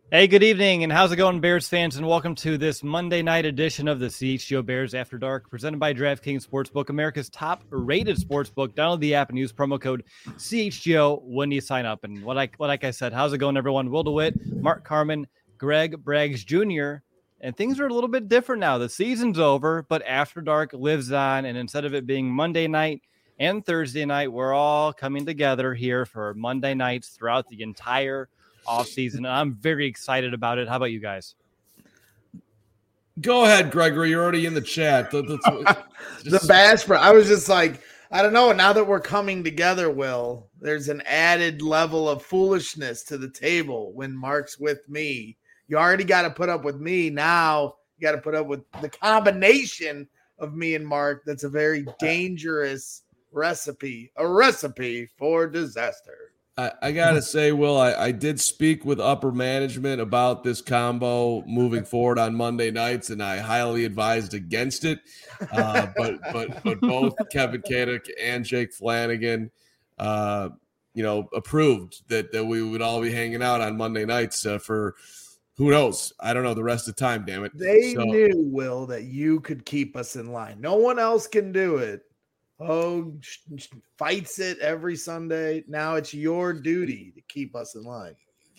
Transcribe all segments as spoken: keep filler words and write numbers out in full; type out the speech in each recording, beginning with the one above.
Hey, good evening, and how's it going, Bears fans? And welcome to this Monday night edition of the C H G O Bears After Dark, presented by DraftKings Sportsbook, America's top-rated sportsbook. Download the app and use promo code C H G O when you sign up. And what I, like I said, how's it going, everyone? Will DeWitt, Mark Carman, Greg Braggs Junior And things are a little bit different now. The season's over, but After Dark lives on. And instead of it being Monday night and Thursday night, we're all coming together here for Monday nights throughout the entire off season. And I'm very excited about it. How about you guys? Go ahead, Gregory. You're already in the chat. Just... the Bash Bro. I was just like, I don't know. Now that we're coming together, Will, there's an added level of foolishness to the table when Mark's with me. You already got to put up with me. Now you got to put up with the combination of me and Mark. That's a very dangerous recipe, a recipe for disaster. I, I got to say, Will, I, I did speak with upper management about this combo moving forward on Monday nights, and I highly advised against it. Uh, but but but both Kevin Kadick and Jake Flanagan, uh, you know, approved that, that we would all be hanging out on Monday nights uh, for who knows? I don't know the rest of the time, damn it. They so, knew, Will, that you could keep us in line. No one else can do it. Oh, fights it every Sunday. Now it's your duty to keep us in line.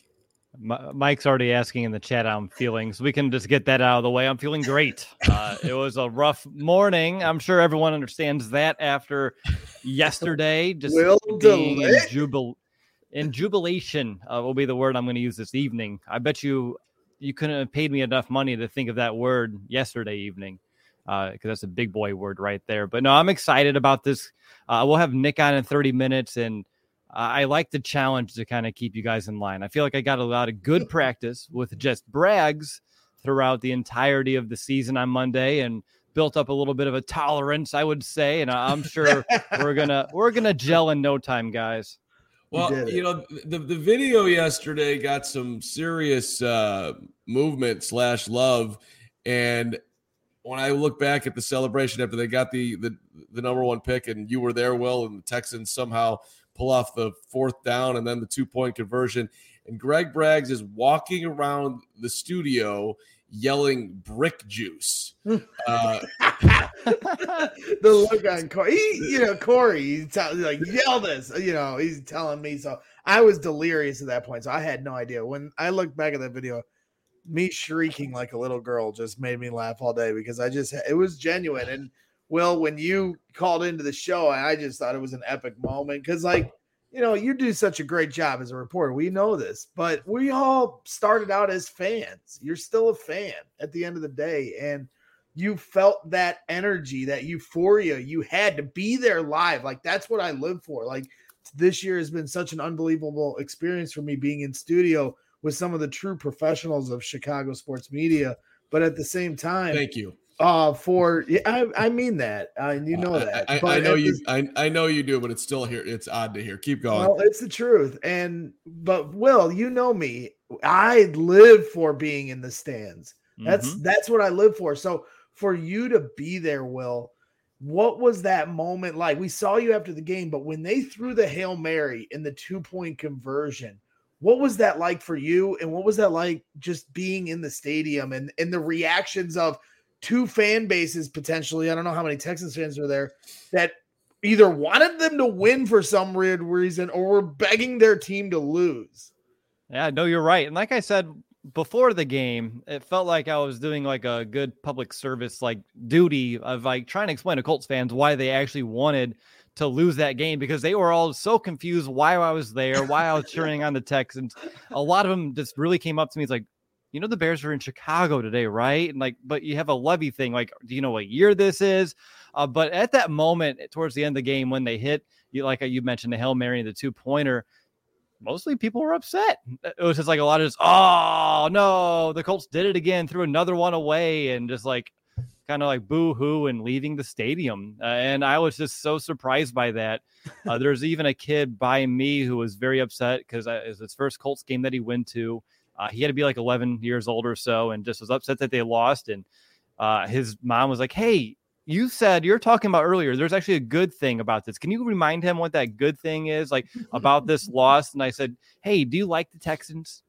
Mike's already asking in the chat how I'm feeling, so we can just get that out of the way. I'm feeling great. Uh, it was a rough morning. I'm sure everyone understands that after yesterday. Just Will being in, jubil- in jubilation uh, will be the word I'm going to use this evening. I bet you you couldn't have paid me enough money to think of that word yesterday evening. Because uh, that's a big boy word right there. But no, I'm excited about this. Uh, we'll have Nick on in thirty minutes, and uh, I like the challenge to kind of keep you guys in line. I feel like I got a lot of good practice with just Braggs throughout the entirety of the season on Monday, and built up a little bit of a tolerance, I would say. And I'm sure we're gonna we're gonna gel in no time, guys. Well, you know, the, the video yesterday got some serious uh, movement slash love, and when I look back at the celebration after they got the, the the number one pick, and you were there, Will, and the Texans somehow pull off the fourth down and then the two-point conversion, and Greg Braggs is walking around the studio yelling brick juice. Uh, the look on Corey, he, you know, Corey, he's t- like, yell this, you know, he's telling me. So I was delirious at that point, so I had no idea. When I look back at that video, me shrieking like a little girl just made me laugh all day because I just, it was genuine. And Will, when you called into the show, I just thought it was an epic moment because, like, you know, you do such a great job as a reporter. We know this, but we all started out as fans. You're still a fan at the end of the day. And you felt that energy, that euphoria. You had to be there live. Like, that's what I live for. Like, this year has been such an unbelievable experience for me being in studio with some of the true professionals of Chicago sports media. But at the same time, thank you. Uh, for I, I mean that, uh, you know that. I, I, but I know you. The, I, I know you do, but it's still here. It's odd to hear. Keep going. Well, it's the truth. And but Will, you know me. I live for being in the stands. That's mm-hmm. that's what I live for. So for you to be there, Will, what was that moment like? We saw you after the game, but when they threw the Hail Mary in the two point conversion, what was that like for you? And what was that like just being in the stadium and and the reactions of two fan bases potentially, I don't know how many Texans fans were there, that either wanted them to win for some weird reason or were begging their team to lose. Yeah, no, you're right. And like I said before the game, it felt like I was doing like a good public service like duty of like trying to explain to Colts fans why they actually wanted to lose that game, because they were all so confused why I was there, why I was cheering on the Texans. A lot of them just really came up to me. It's like, you know, the Bears are in Chicago today, right? And like, but you have a Levy thing. Like, do you know what year this is? Uh, but at that moment, towards the end of the game, when they hit, you like you mentioned, the Hail Mary and the two pointer, mostly people were upset. It was just like a lot of just, oh no, the Colts did it again, threw another one away, and just like kind of like boo hoo and leaving the stadium. Uh, and I was just so surprised by that. Uh, there's even a kid by me who was very upset because it was his first Colts game that he went to. Uh, he had to be like eleven years old or so, and just was upset that they lost. And uh, his mom was like, hey, you said you're talking about earlier, there's actually a good thing about this. Can you remind him what that good thing is like about this loss? And I said, hey, do you like the Texans?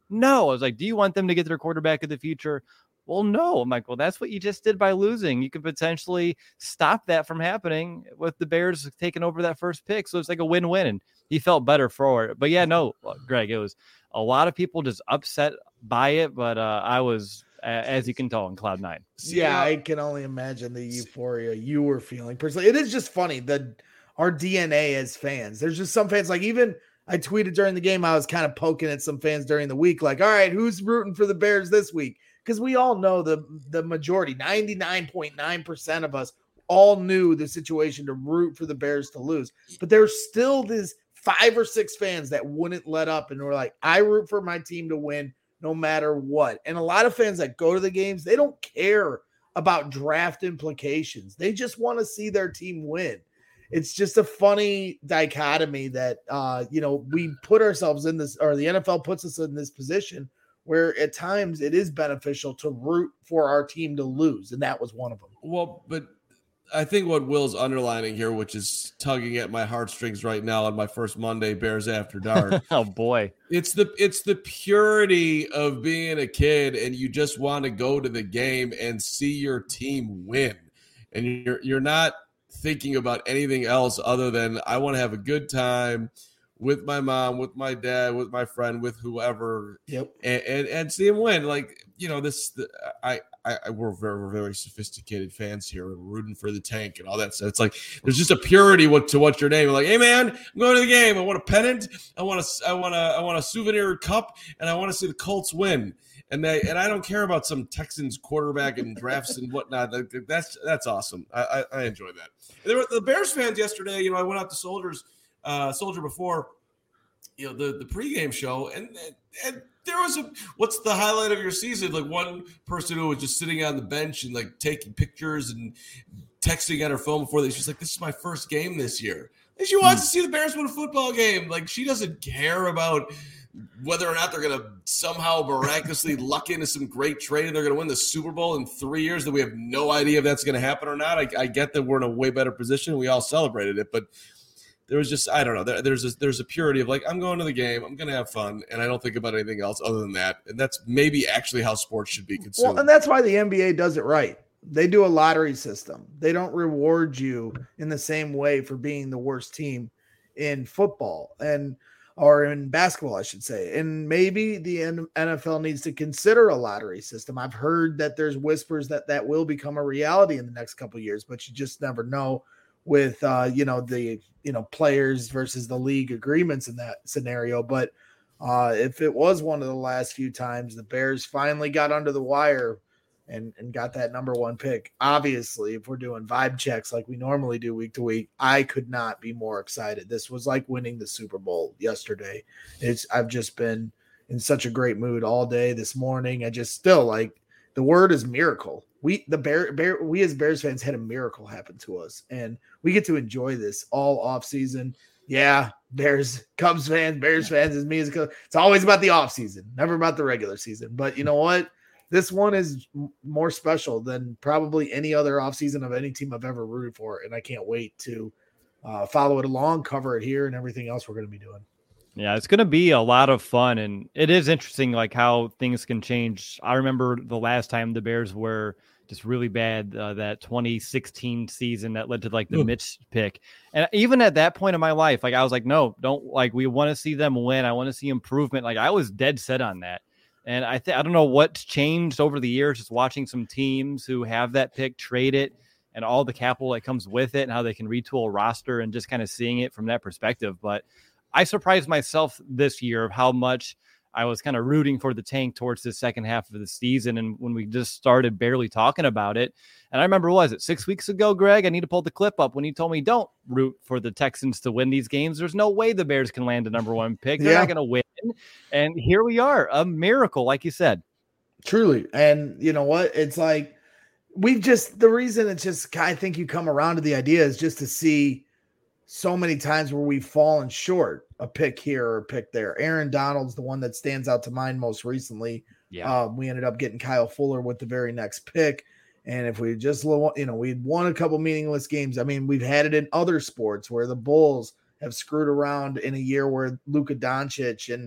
No. I was like, do you want them to get their quarterback of the future? Well, no. I'm like, well, that's what you just did by losing. You could potentially stop that from happening with the Bears taking over that first pick. So it's like a win-win, and he felt better for it. But yeah, no, Greg, it was a lot of people just upset by it, but uh, I was, as you can tell, on cloud nine. Yeah, I can only imagine the euphoria you were feeling personally. It is just funny that our D N A as fans, there's just some fans, like even I tweeted during the game, I was kind of poking at some fans during the week, like, all right, who's rooting for the Bears this week? Because we all know the, the majority, ninety-nine point nine percent of us all knew the situation to root for the Bears to lose. But there's still this five or six fans that wouldn't let up and were like, I root for my team to win no matter what. And a lot of fans that go to the games, they don't care about draft implications. They just want to see their team win. It's just a funny dichotomy that, uh, you know, we put ourselves in this, or the N F L puts us in this position where at times it is beneficial to root for our team to lose. And that was one of them. Well, but I think what Will's underlining here, which is tugging at my heartstrings right now on my first Monday Bears After Dark. Oh boy. It's the it's the purity of being a kid and you just want to go to the game and see your team win. And you're you're not thinking about anything else other than I want to have a good time with my mom, with my dad, with my friend, with whoever. Yep. And and, and see him win. Like, you know, this the, I I, we're very, very sophisticated fans here and rooting for the tank and all that stuff. It's like there's just a purity what, to what's your name. Like, hey man, I'm going to the game. I want a pennant. I want a, I want a, I want a souvenir cup, and I want to see the Colts win. And they, and I don't care about some Texans quarterback and drafts and whatnot. That's that's awesome. I I, I enjoy that. There were the Bears fans yesterday. You know, I went out to Soldiers, uh, Soldier before, you know, the the pregame show, and and. There was a what's the highlight of your season? Like one person who was just sitting on the bench and like taking pictures and texting on her phone before they. She's like, "This is my first game this year." And she wants to see the Bears win a football game. Like she doesn't care about whether or not they're going to somehow miraculously luck into some great trade and they're going to win the Super Bowl in three years. That we have no idea if that's going to happen or not. I, I get that we're in a way better position. We all celebrated it, but. There was just, I don't know, there, there's, a, there's a purity of like, I'm going to the game, I'm going to have fun, and I don't think about anything else other than that. And that's maybe actually how sports should be consumed. Well, and that's why the N B A does it right. They do a lottery system. They don't reward you in the same way for being the worst team in football and or in basketball, I should say. And maybe the N F L needs to consider a lottery system. I've heard that there's whispers that that will become a reality in the next couple of years, but you just never know. With uh, you know the you know players versus the league agreements in that scenario, but uh, if it was one of the last few times the Bears finally got under the wire and and got that number one pick, obviously, if we're doing vibe checks like we normally do week to week, I could not be more excited. This was like winning the Super Bowl yesterday. It's I've just been in such a great mood all day this morning. I just still like the word is miracle. We the Bear, Bear we as Bears fans had a miracle happen to us, and we get to enjoy this all off season. Yeah, Bears, Cubs fans, Bears fans, as me as a, it's always about the off season, never about the regular season. But you know what? This one is more special than probably any other off season of any team I've ever rooted for, and I can't wait to uh, follow it along, cover it here, and everything else we're going to be doing. Yeah, it's going to be a lot of fun, and it is interesting, like how things can change. I remember the last time the Bears were just really bad, uh, that twenty sixteen season that led to like the Ooh. Mitch pick. And even at that point in my life, like I was like, no, don't like, we want to see them win. I want to see improvement. Like I was dead set on that. And I think, I don't know what's changed over the years, just watching some teams who have that pick, trade it, and all the capital that comes with it and how they can retool a roster and just kind of seeing it from that perspective. But I surprised myself this year of how much I was kind of rooting for the tank towards the second half of the season. And when we just started barely talking about it, and I remember, what was it, six weeks ago, Greg? I need to pull the clip up when he told me, don't root for the Texans to win these games. There's no way the Bears can land a number one pick. They're yeah. not going to win. And here we are, a miracle, like you said. Truly. And you know what? It's like, we've just, the reason it's just, I think you come around to the idea is just to see so many times where we've fallen short, a pick here or a pick there. Aaron Donald's the one that stands out to mind most recently. Yeah. Um, we ended up getting Kyle Fuller with the very next pick. And if we just, you know, we'd won a couple meaningless games. I mean, we've had it in other sports where the Bulls have screwed around in a year where Luka Doncic and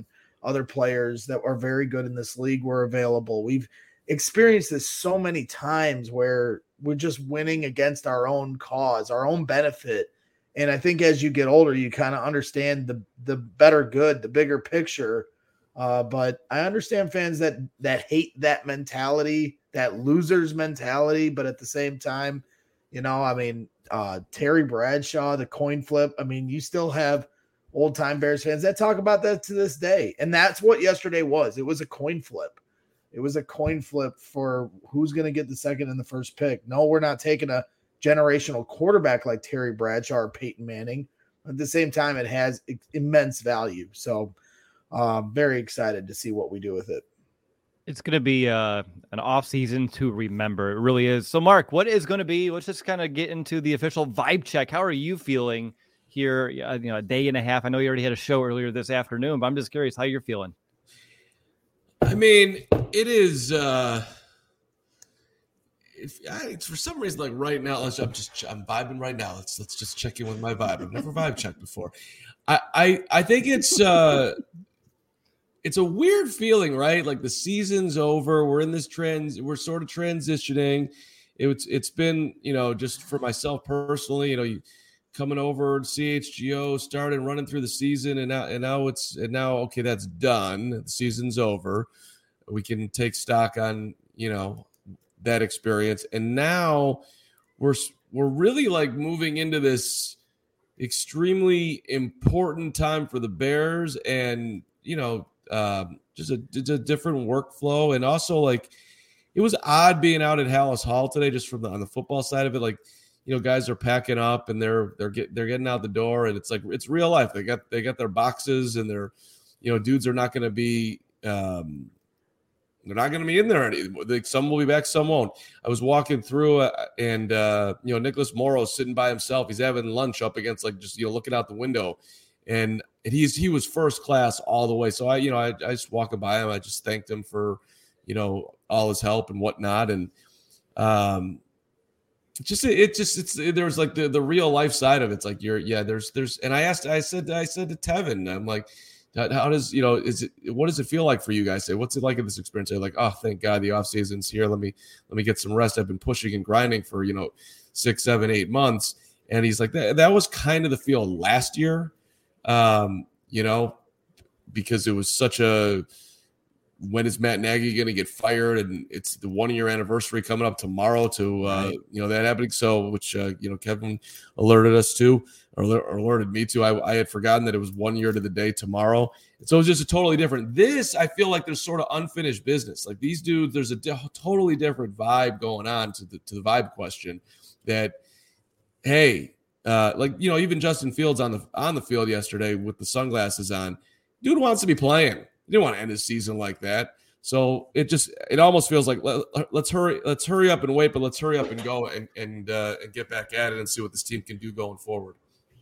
other players that are very good in this league were available. We've experienced this so many times where we're just winning against our own cause, our own benefit. And I think as you get older, you kind of understand the the better good, the bigger picture. Uh, but I understand fans that that hate that mentality, that loser's mentality. But at the same time, you know, I mean, uh, Terry Bradshaw, the coin flip. I mean, you still have old time Bears fans that talk about that to this day. And that's what yesterday was. It was a coin flip. It was a coin flip for who's going to get the second and the first pick. No, we're not taking a generational quarterback like Terry Bradshaw or Peyton Manning. At the same time, it has immense value. So um, very excited to see what we do with it. It's going to be uh, an off season to remember. It really is. So, Mark, what is going to be? Let's just kind of get into the official vibe check. How are you feeling here? You know, a day and a half. I know you already had a show earlier this afternoon, but I'm just curious how you're feeling. I mean, it is. Uh, if I, it's for some reason, like right now, let's, I'm just I'm vibing right now. Let's let's just check in with my vibe. I've never vibe checked before. I I, I think it's. Uh, It's a weird feeling, right? Like the season's over. We're in this trend. We're sort of transitioning. It's it's been, you know, just for myself personally, you know, you coming over to C H G O, starting running through the season, and now and now it's and now okay, that's done. The season's over. We can take stock on, you know, that experience, and now we're we're really like moving into this extremely important time for the Bears, and you know. Um, just a, just a different workflow. And also like, it was odd being out at Hallis Hall today, just from the, on the football side of it. Like, you know, guys are packing up and they're, they're getting, they're getting out the door, and it's like, it's real life. They got, they got their boxes, and they're, you know, dudes are not going to be, um, they're not going to be in there anymore. Like, some will be back, some won't. I was walking through uh, and, uh, you know, Nicholas Morrow's sitting by himself. He's having lunch up against, like, just, you know, looking out the window. And he's he was first class all the way. So I, you know, I, I just walking by him. I just thanked him for, you know, all his help and whatnot. And um, just it just it's there was like the the real life side of it. It's like you're yeah. There's there's and I asked I said I said to Tevin, I'm like, how does you know is it what does it feel like for you guys? Say what's it like in this experience? They're like, oh, thank God the off season's here. Let me let me get some rest. I've been pushing and grinding for you know six, seven, eight months. And he's like that. That was kind of the feel last year. Um, you know, because it was such a when is Matt Nagy going to get fired? And it's the one year anniversary coming up tomorrow to, uh, right. you know, that happening. So, which, uh, you know, Kevin alerted us to or, or alerted me to. I, I had forgotten that it was one year to the day tomorrow. And so it was just a totally different. This, I feel like there's sort of unfinished business. Like these dudes, there's a di- totally different vibe going on to the, to the vibe question that, hey, Uh, like, you know, even Justin Fields on the on the field yesterday with the sunglasses on, dude wants to be playing. He didn't want to end his season like that. So it just it almost feels like let, let's hurry let's hurry up and wait, but let's hurry up and go and and uh, and get back at it and see what this team can do going forward.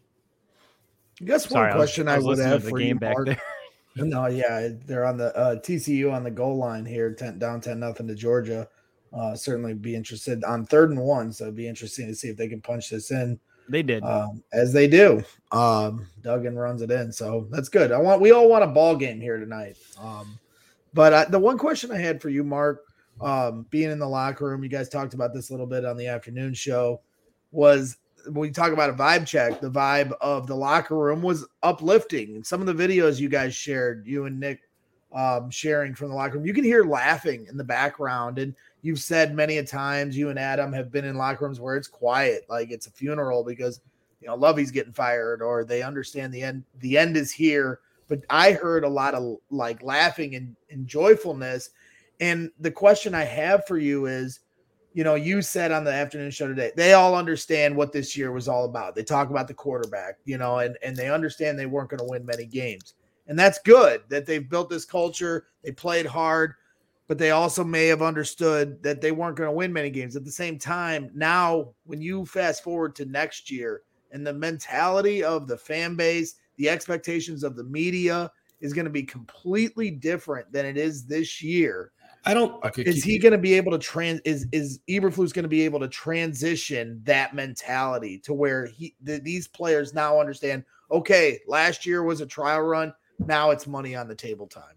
I guess Sorry, one question I, was, I, I would have for you, back Mark. There. No, yeah, they're on the uh, T C U on the goal line here, ten, down ten nothing to Georgia. Uh, certainly be interested on third and one, so it'd be interesting to see if they can punch this in. They did, um, as they do. Um, Duggan runs it in, so that's good. I want we all want a ball game here tonight. Um, but I, the one question I had for you, Mark, um, being in the locker room, you guys talked about this a little bit on the afternoon show, was when we talk about a vibe check, the vibe of the locker room was uplifting. And some of the videos you guys shared, you and Nick um, sharing from the locker room, you can hear laughing in the background. And you've said many a times, you and Adam have been in locker rooms where it's quiet, like it's a funeral because, you know, Lovey's getting fired or they understand the end, the end is here. But I heard a lot of like laughing and, and joyfulness. And the question I have for you is, you know, you said on the afternoon show today, they all understand what this year was all about. They talk about the quarterback, you know, and, and they understand they weren't going to win many games. And that's good that they've built this culture. They played hard, but they also may have understood that they weren't going to win many games. At the same time, now when you fast forward to next year and the mentality of the fan base, the expectations of the media is going to be completely different than it is this year. I don't. Okay, is he going to be able to trans? Is is Eberflus going to be able to transition that mentality to where he th- these players now understand? Okay, last year was a trial run. now it's money on the table time.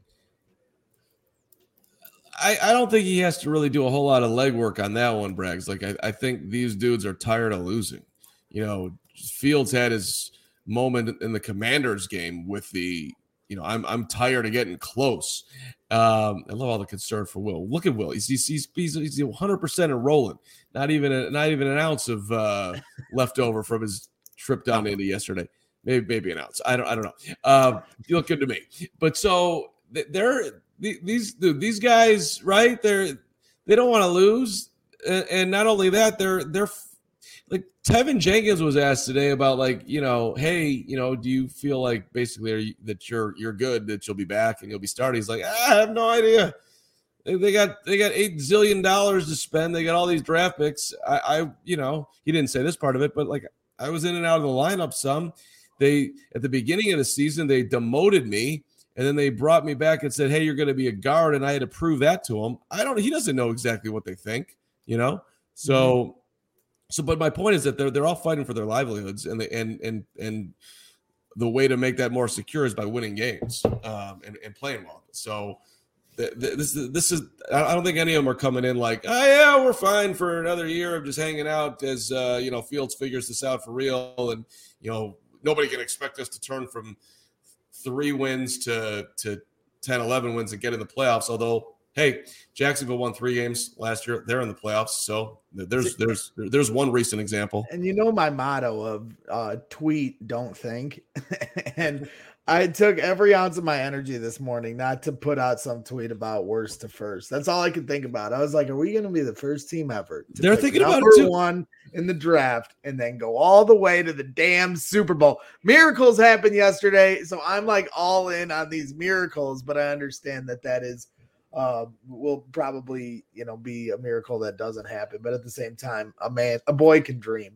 I, I don't think he has to really do a whole lot of legwork on that one, Braggs. Like, I, I think these dudes are tired of losing. You know, Fields had his moment in the Commanders game with the, you know, I'm I'm tired of getting close. Um, I love all the concern for Will. Look at Will. He's he's he's, he's, he's one hundred percent enrolling. Not even a, not even an ounce of uh, left over from his trip down to Indy yesterday. Maybe maybe an ounce. I don't I don't know. Uh, you look good to me. But so they're these dude, these guys, right? They're they don't want to lose, and, and not only that, they're they're like Tevin Jenkins was asked today about, like, you know, hey, you know, do you feel like basically are you, that you're you're good, that you'll be back and you'll be starting? He's like, I have no idea. They, they got they got eight zillion dollars to spend. They got all these draft picks. I, I, you know, he didn't say this part of it, but like I was in and out of the lineup some. They at the beginning of the season they demoted me, and then they brought me back and said, hey, you're going to be a guard, and I had to prove that to him. I don't. He doesn't know exactly what they think, you know. So. Mm-hmm. So, but my point is that they're they're all fighting for their livelihoods, and the, and and and the way to make that more secure is by winning games um, and, and playing well. So, th- th- this is this is I don't think any of them are coming in like, oh yeah, we're fine for another year of just hanging out as uh, you know, Fields figures this out for real, and you know nobody can expect us to turn from three wins to to ten, eleven wins and get in the playoffs. Although, hey, Jacksonville won three games last year. They're in the playoffs. So there's there's there's one recent example. And you know my motto of uh, tweet, don't think. And I took every ounce of my energy this morning not to put out some tweet about worst to first. That's all I could think about. I was like, are we going to be the first team ever to They're thinking about number it too. one in the draft and then go all the way to the damn Super Bowl? Miracles happened yesterday. So I'm like all in on these miracles, but I understand that that is Uh, will probably, you know, be a miracle that doesn't happen. But at the same time, a man, a boy can dream.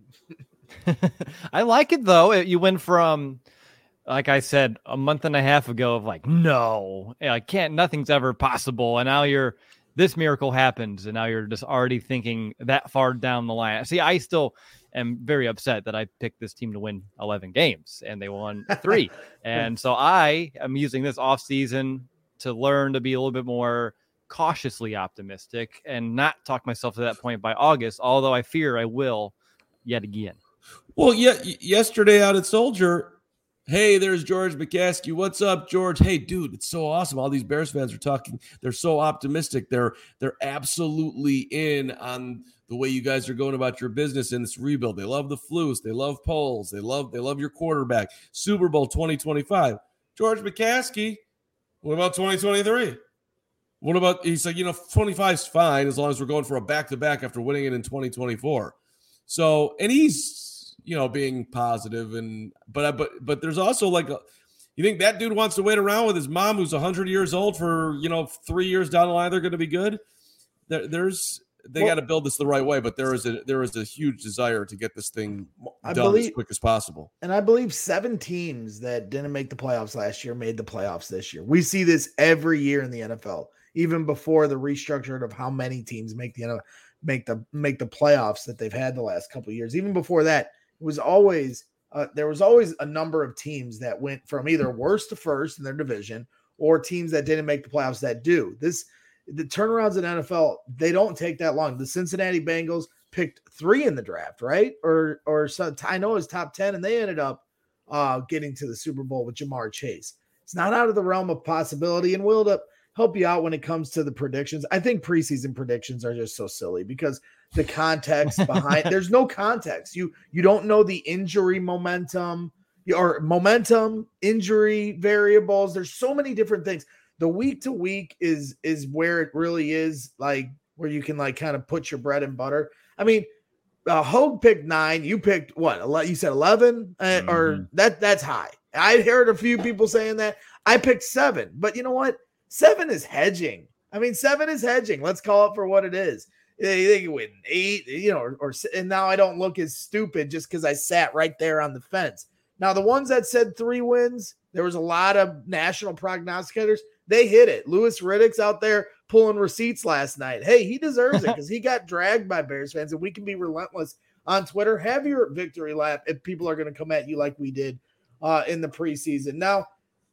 I like it though. You went from, like I said, a month and a half ago of like, no, I can't, nothing's ever possible. And now you're, this miracle happens. And now you're just already thinking that far down the line. See, I still am very upset that I picked this team to win eleven games and they won three. And so I am using this off season to learn to be a little bit more cautiously optimistic and not talk myself to that point by August, although I fear I will yet again. Well, yeah, yesterday out at Soldier, hey, there's George McCaskey. What's up, George? Hey, dude, it's so awesome. All these Bears fans are talking. They're so optimistic. They're they're absolutely in on the way you guys are going about your business in this rebuild. They love the Flus. They love Poles. They love they love your quarterback. Super Bowl twenty twenty-five. George McCaskey. What about twenty twenty-three? What about, he's like, you know, twenty-five is fine as long as we're going for a back-to-back after winning it in twenty twenty-four. So, and he's, you know, being positive and, but, but, but there's also like, a, you think that dude wants to wait around with his mom who's one hundred years old for, you know, three years down the line, they're going to be good? There, there's, they well, got to build this the right way, but there is a there is a huge desire to get this thing I done believe, as quick as possible. And I believe seven teams that didn't make the playoffs last year made the playoffs this year. We see this every year in the N F L, even before the restructuring of how many teams make the N F L, make the make the playoffs that they've had the last couple of years. Even before that, it was always uh, there was always a number of teams that went from either worst to first in their division, or teams that didn't make the playoffs that do. This the turnarounds in N F L, they don't take that long. The Cincinnati Bengals picked three in the draft, right? Or or so, I know it was top ten, and they ended up uh, getting to the Super Bowl with Jamar Chase. It's not out of the realm of possibility, and will to help you out when it comes to the predictions. I think preseason predictions are just so silly because the context behind there's no context. You you don't know the injury momentum or momentum, injury variables. There's so many different things. The week to week is is where it really is, like where you can like kind of put your bread and butter. I mean, uh, Hogue picked nine. You picked what? You said eleven, uh, mm-hmm. or that that's high. I heard a few people saying that. I picked seven, but you know what? Seven is hedging. I mean, seven is hedging. Let's call it for what it is. They, they can win eight, you know, or, or and now I don't look as stupid just because I sat right there on the fence. Now, the ones that said three wins, there was a lot of national prognosticators. They hit it. Louis Riddick's out there pulling receipts last night. Hey, he deserves it because he got dragged by Bears fans, and we can be relentless on Twitter. Have your victory lap if people are going to come at you like we did uh, in the preseason. Now,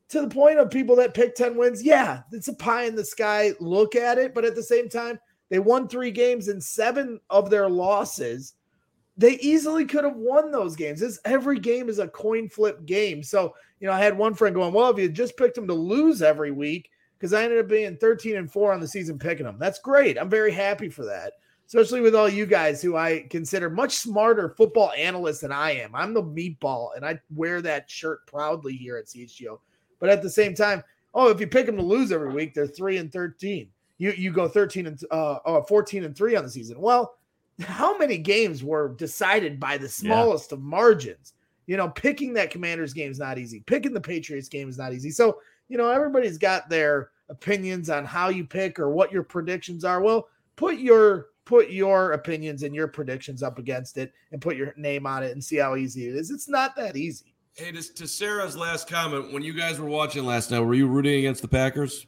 to the point of people that pick ten wins, yeah, it's a pie in the sky look at it. But at the same time, they won three games and seven of their losses. They easily could have won those games. This, every game is a coin flip game. So, you know, I had one friend going, well, if you just picked them to lose every week, because I ended up being thirteen and four on the season picking them. That's great. I'm very happy for that, especially with all you guys who I consider much smarter football analysts than I am. I'm the meatball, and I wear that shirt proudly here at C H G O. But at the same time, oh, if you pick them to lose every week, they're three and thirteen. You you go thirteen and uh, oh, fourteen and three on the season. Well, how many games were decided by the smallest yeah. of margins? You know, picking that Commanders game is not easy. Picking the Patriots game is not easy. So, you know, everybody's got their opinions on how you pick or what your predictions are. Well, put your put your opinions and your predictions up against it and put your name on it and see how easy it is. It's not that easy. Hey, to, to Sarah's last comment, when you guys were watching last night, were you rooting against the Packers?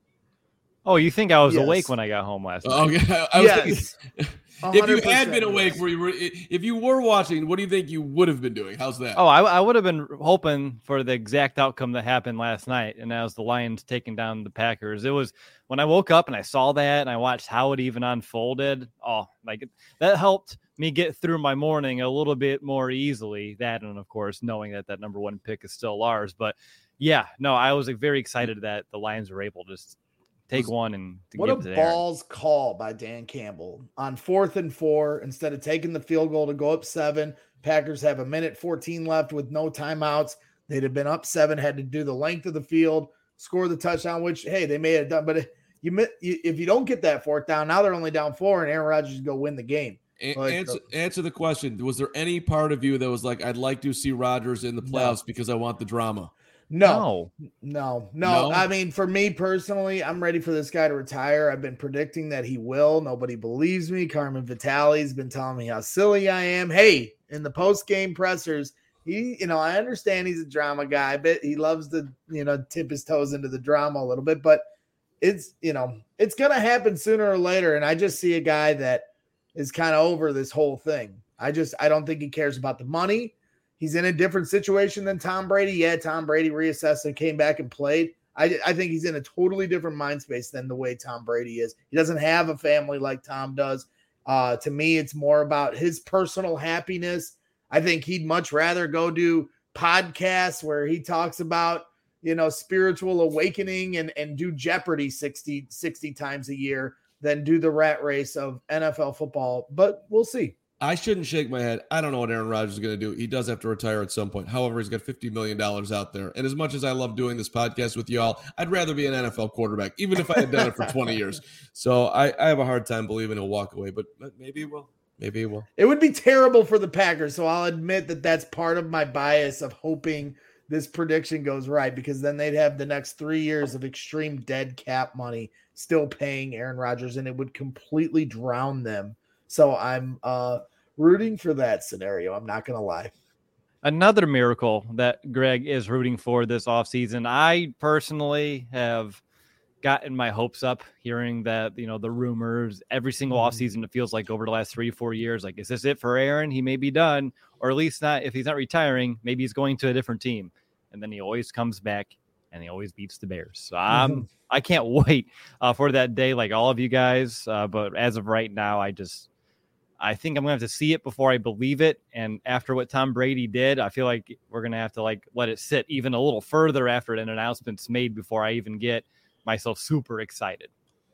Oh, you think I was yes. awake when I got home last night? Oh, okay. I was yes. thinking, if you had been awake, yes. were you, if you were watching, what do you think you would have been doing? How's that? Oh, I, I would have been hoping for the exact outcome that happened last night, and that was the Lions taking down the Packers. It was when I woke up and I saw that and I watched how it even unfolded. Oh, like that helped me get through my morning a little bit more easily. That, and of course, knowing that that number one pick is still ours. But yeah, no, I was like, very excited that the Lions were able to just take one and to what give a to balls Aaron. Call by Dan Campbell on fourth and four. Instead of taking the field goal to go up seven, Packers have a minute fourteen left with no timeouts. They'd have been up seven, had to do the length of the field, score the touchdown, which, hey, they may have done. But you, if you don't get that fourth down, now they're only down four, and Aaron Rodgers is going to win the game. A- answer, answer the question. Was there any part of you that was like, I'd like to see Rodgers in the playoffs no. because I want the drama? No, no, no, no. I mean, for me personally, I'm ready for this guy to retire. I've been predicting that he will. Nobody believes me. Carmen Vitale's been telling me how silly I am. Hey, in the post-game pressers, he, you know, I understand he's a drama guy, but he loves to, you know, tip his toes into the drama a little bit. But it's, you know, it's going to happen sooner or later. And I just see a guy that is kind of over this whole thing. I just, I don't think he cares about the money. He's in a different situation than Tom Brady. Yeah, Tom Brady reassessed and came back and played. I, I think he's in a totally different mind space than the way Tom Brady is. He doesn't have a family like Tom does. Uh, to me, it's more about his personal happiness. I think he'd much rather go do podcasts where he talks about, you know, spiritual awakening and, and do Jeopardy sixty, sixty times a year than do the rat race of N F L football. But we'll see. I shouldn't shake my head. I don't know what Aaron Rodgers is going to do. He does have to retire at some point. However, he's got fifty million dollars out there. And as much as I love doing this podcast with y'all, I'd rather be an N F L quarterback, even if I had done it for twenty years. So I, I have a hard time believing he'll walk away, but maybe he will. Maybe he will. It would be terrible for the Packers. So I'll admit that that's part of my bias of hoping this prediction goes right, because then they'd have the next three years of extreme dead cap money still paying Aaron Rodgers, and it would completely drown them. So I'm uh, rooting for that scenario. I'm not going to lie. Another miracle that Greg is rooting for this offseason. I personally have gotten my hopes up hearing that, you know, the rumors every single offseason, it feels like over the last three, four years, like, is this it for Aaron? He may be done, or at least not. If he's not retiring, maybe he's going to a different team. And then he always comes back and he always beats the Bears. So I'm, mm-hmm. I can't wait uh, for that day, like all of you guys. Uh, but as of right now, I just, I think I'm going to have to see it before I believe it. And after what Tom Brady did, I feel like we're going to have to like let it sit even a little further after an announcement's made before I even get myself super excited.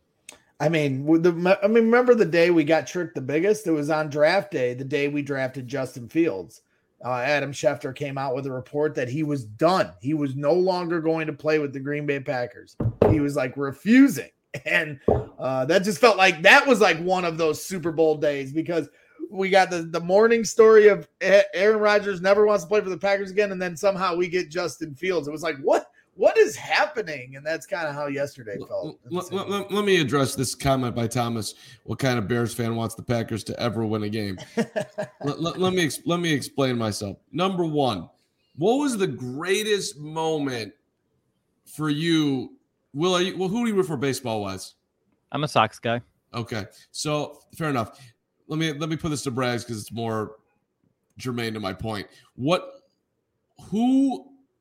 I mean, the, I mean, remember the day we got tricked the biggest? It was on draft day, the day we drafted Justin Fields. Uh, Adam Schefter came out with a report that he was done. He was no longer going to play with the Green Bay Packers. He was like refusing. And uh, that just felt like that was like one of those Super Bowl days, because we got the, the morning story of Aaron Rodgers never wants to play for the Packers again. And then somehow we get Justin Fields. It was like, what, what is happening? And that's kind of how yesterday felt. Let, let, let, let me address this comment by Thomas. What kind of Bears fan wants the Packers to ever win a game? let, let, let me, let me explain myself. Number one, what was the greatest moment for you? Will, are you, well, who do you root for baseball wise? I'm a Sox guy. Okay. So fair enough. Let me, let me put this to Braggs because it's more germane to my point. What, who,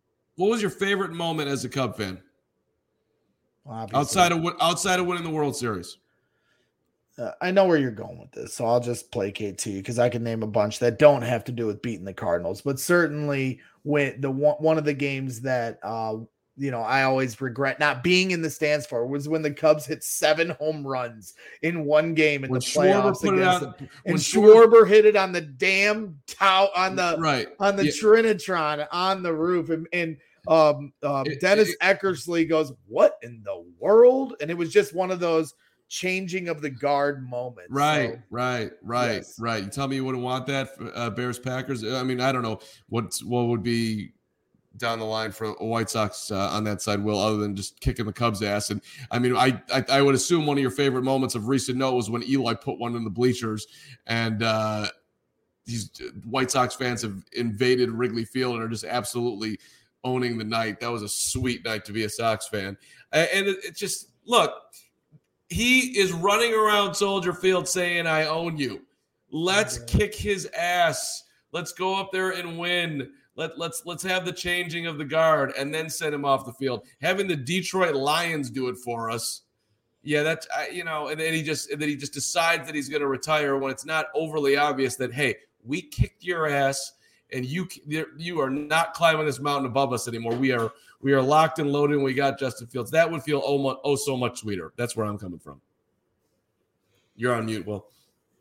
what was your favorite moment as a Cub fan? Obviously. Outside of outside of winning the World Series. Uh, I know where you're going with this, so I'll just placate to you because I can name a bunch that don't have to do with beating the Cardinals, but certainly when the one, one of the games that uh, you know I always regret not being in the stands for was when the Cubs hit seven home runs in one game in when the playoffs put against it on, them. And Schwarber, Schwarber hit it on the damn tow on the right on the yeah. Trinitron on the roof, and, and um, um, it, Dennis it, Eckersley goes, "What in the world?" And it was just one of those changing of the guard moments. Right, so, right, right, yes. right. You tell me you wouldn't want that, uh, Bears Packers. I mean, I don't know what what would be down the line for a White Sox uh, on that side, Will, other than just kicking the Cubs' ass. And I mean, I, I I would assume one of your favorite moments of recent note was when Eli put one in the bleachers, and uh, these White Sox fans have invaded Wrigley Field and are just absolutely owning the night. That was a sweet night to be a Sox fan, and it, it just look. He is running around Soldier Field saying, I own you. Let's yeah. kick his ass. Let's go up there and win. Let, let's let's have the changing of the guard and then send him off the field. Having the Detroit Lions do it for us. Yeah, that's, you know, and then he just and then he just decides that he's going to retire when it's not overly obvious that, hey, we kicked your ass and you you are not climbing this mountain above us anymore. We are we are locked and loaded and we got Justin Fields. That would feel oh, much, oh so much sweeter. That's where I'm coming from. You're on mute, Will.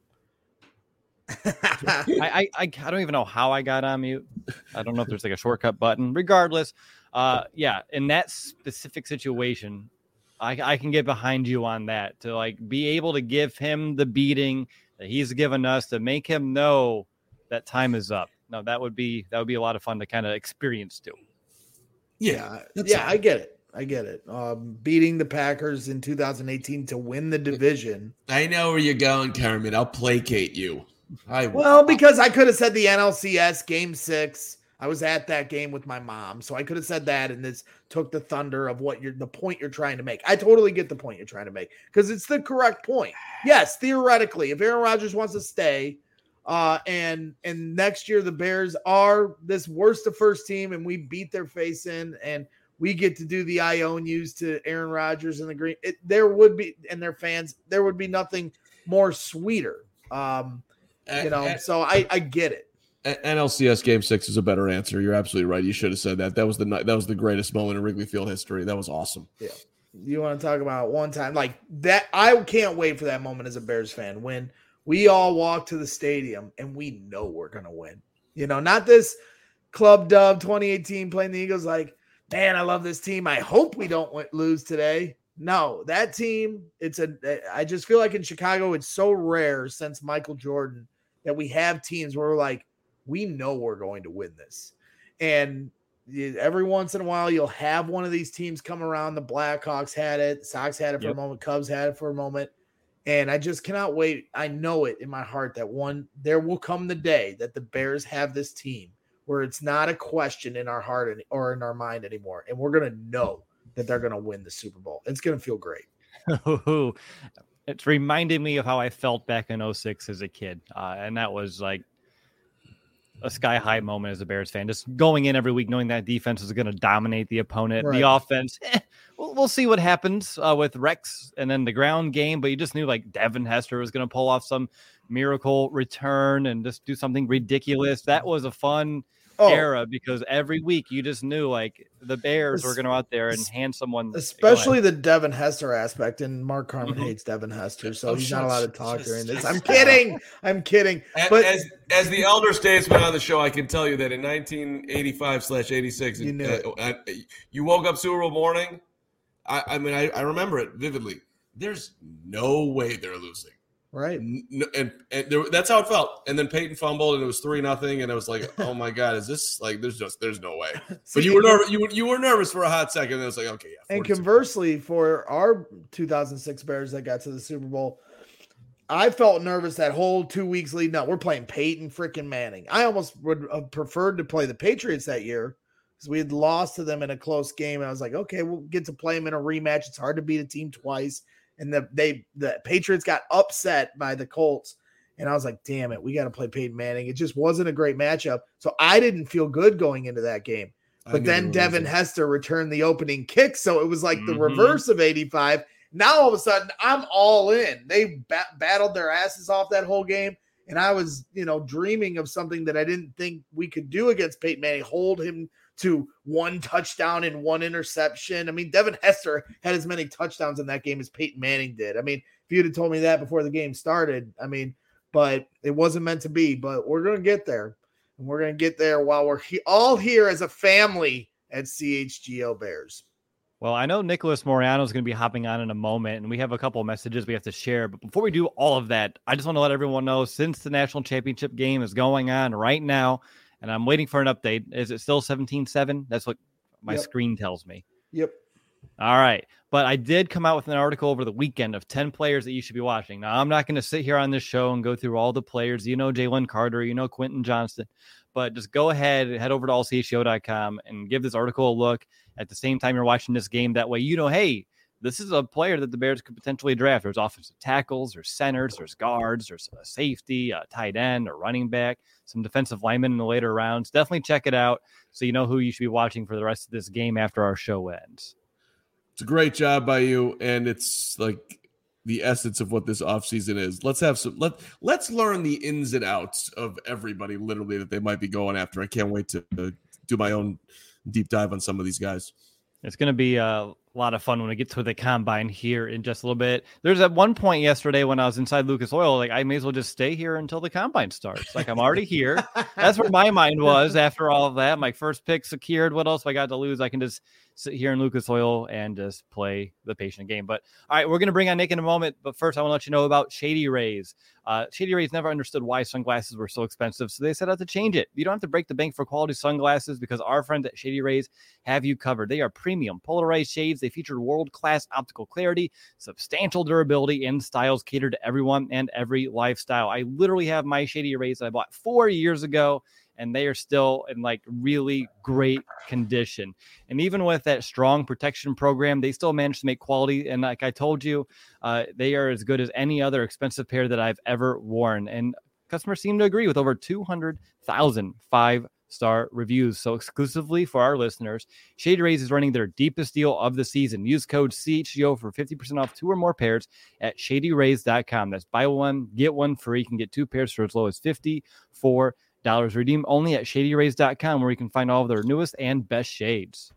I, I I don't even know how I got on mute. I don't know if there's like a shortcut button. Regardless, uh, yeah, in that specific situation, I, I can get behind you on that to like be able to give him the beating that he's given us to make him know that time is up. No, that would be that would be a lot of fun to kind of experience too. Yeah, yeah, I get it. I get it. Um, beating the Packers in two thousand eighteen to win the division. I know where you're going, Kermit. I'll placate you. I well, because I could have said the N L C S game six. I was at that game with my mom, so I could have said that, and this took the thunder of what you're the point you're trying to make. I totally get the point you're trying to make because it's the correct point. Yes, theoretically, if Aaron Rodgers wants to stay, uh, and and next year the Bears are this worst of first team, and we beat their face in, and we get to do the I own yous to Aaron Rodgers and the Green. It, there would be and their fans. There would be nothing more sweeter. Um, you know, uh, uh, so I I get it. N L C S Game Six is a better answer. You're absolutely right. You should have said that. That was the that was the greatest moment in Wrigley Field history. That was awesome. Yeah. You want to talk about one time like that? I can't wait for that moment as a Bears fan when we all walk to the stadium and we know we're gonna win. You know, not this club dub twenty eighteen playing the Eagles. Like, man, I love this team. I hope we don't lose today. No, that team. It's a. I just feel like in Chicago, it's so rare since Michael Jordan that we have teams where we're like, we know we're going to win this. And every once in a while, you'll have one of these teams come around. The Blackhawks had it. The Sox had it for yep. a moment. Cubs had it for a moment. And I just cannot wait. I know it in my heart that one, there will come the day that the Bears have this team where it's not a question in our heart or in our mind anymore. And we're going to know that they're going to win the Super Bowl. It's going to feel great. It's reminded me of how I felt back in oh six as a kid. Uh, and that was like a sky high moment as a Bears fan, just going in every week, knowing that defense is going to dominate the opponent. Right. The offense, eh, we'll, we'll see what happens uh, with Rex and then the ground game. But you just knew like Devin Hester was going to pull off some miracle return and just do something ridiculous. That was a fun oh. era because every week you just knew like the Bears were going to go out there and hand someone, especially the Devin Hester aspect. And Mark Carman mm-hmm. hates Devin Hester, so oh, he's not allowed to talk just, during this. I'm kidding. I'm kidding. But as as the elder statesman on the show, I can tell you that in nineteen eighty-five slash eighty-six, you knew uh, uh, you woke up Super Bowl morning. I, I mean, I, I remember it vividly. There's no way they're losing. Right. No, and and there, that's how it felt. And then Peyton fumbled and it was three nothing. And it was like, oh my God, is this like, there's just, there's no way. See, but you were nervous. You were, you were nervous for a hot second. And it was like, okay. Yeah. And conversely for our two thousand six Bears that got to the Super Bowl, I felt nervous that whole two weeks leading up. We're playing Peyton freaking Manning. I almost would have preferred to play the Patriots that year because we had lost to them in a close game. And I was like, okay, we'll get to play them in a rematch. It's hard to beat a team twice. And the they the Patriots got upset by the Colts. And I was like, damn it, we got to play Peyton Manning. It just wasn't a great matchup. So I didn't feel good going into that game. But then Devin losing. Hester returned the opening kick. So it was like the Mhm. reverse of eighty-five. Now all of a sudden I'm all in. They bat- battled their asses off that whole game. And I was, you know, dreaming of something that I didn't think we could do against Peyton Manning, hold him to one touchdown and one interception. I mean, Devin Hester had as many touchdowns in that game as Peyton Manning did. I mean, if you'd have told me that before the game started, I mean, but it wasn't meant to be. But we're going to get there. And we're going to get there while we're he- all here as a family at C H G O Bears. Well, I know Nicholas Moriano is going to be hopping on in a moment, and we have a couple of messages we have to share. But before we do all of that, I just want to let everyone know, since the national championship game is going on right now, and I'm waiting for an update. Is it still seventeen seven? That's what my Yep. screen tells me. Yep. All right. But I did come out with an article over the weekend of ten players that you should be watching. Now, I'm not going to sit here on this show and go through all the players. You know Jalen Carter, you know Quentin Johnston. But just go ahead, head over to all c h g o dot com and give this article a look at the same time you're watching this game. That way, you know, hey, this is a player that the Bears could potentially draft. There's offensive tackles, there's centers, there's guards, there's a safety, a tight end, a running back, some defensive linemen in the later rounds. Definitely check it out so you know who you should be watching for the rest of this game after our show ends. It's a great job by you, and it's like the essence of what this offseason is. Let's have some let let's learn the ins and outs of everybody literally that they might be going after. I can't wait to uh, do my own deep dive on some of these guys. It's going to be a lot of fun when we get to the combine here in just a little bit. There's at one point yesterday when I was inside Lucas Oil, like I may as well just stay here until the combine starts. Like I'm already here. That's where my mind was after all of that. My first pick secured. What else have I got to lose? I can just sit here in Lucas Oil and just play the patient game. But all right, we're going to bring on Nick in a moment. But first, I want to let you know about Shady Rays. Uh, Shady Rays never understood why sunglasses were so expensive, so they set out to change it. You don't have to break the bank for quality sunglasses because our friends at Shady Rays have you covered. They are premium polarized shades. They feature world-class optical clarity, substantial durability, and styles catered to everyone and every lifestyle. I literally have my Shady Rays that I bought four years ago, and they are still in like really great condition. And even with that strong protection program, they still manage to make quality. And like I told you, uh, they are as good as any other expensive pair that I've ever worn. And customers seem to agree with over two hundred thousand five-star reviews. So exclusively for our listeners, Shady Rays is running their deepest deal of the season. Use code C H G O for fifty percent off two or more pairs at shady rays dot com. That's buy one, get one free. You can get two pairs for as low as fifty-four dollars. Redeem only at shady rays dot com, where you can find all of their newest and best shades.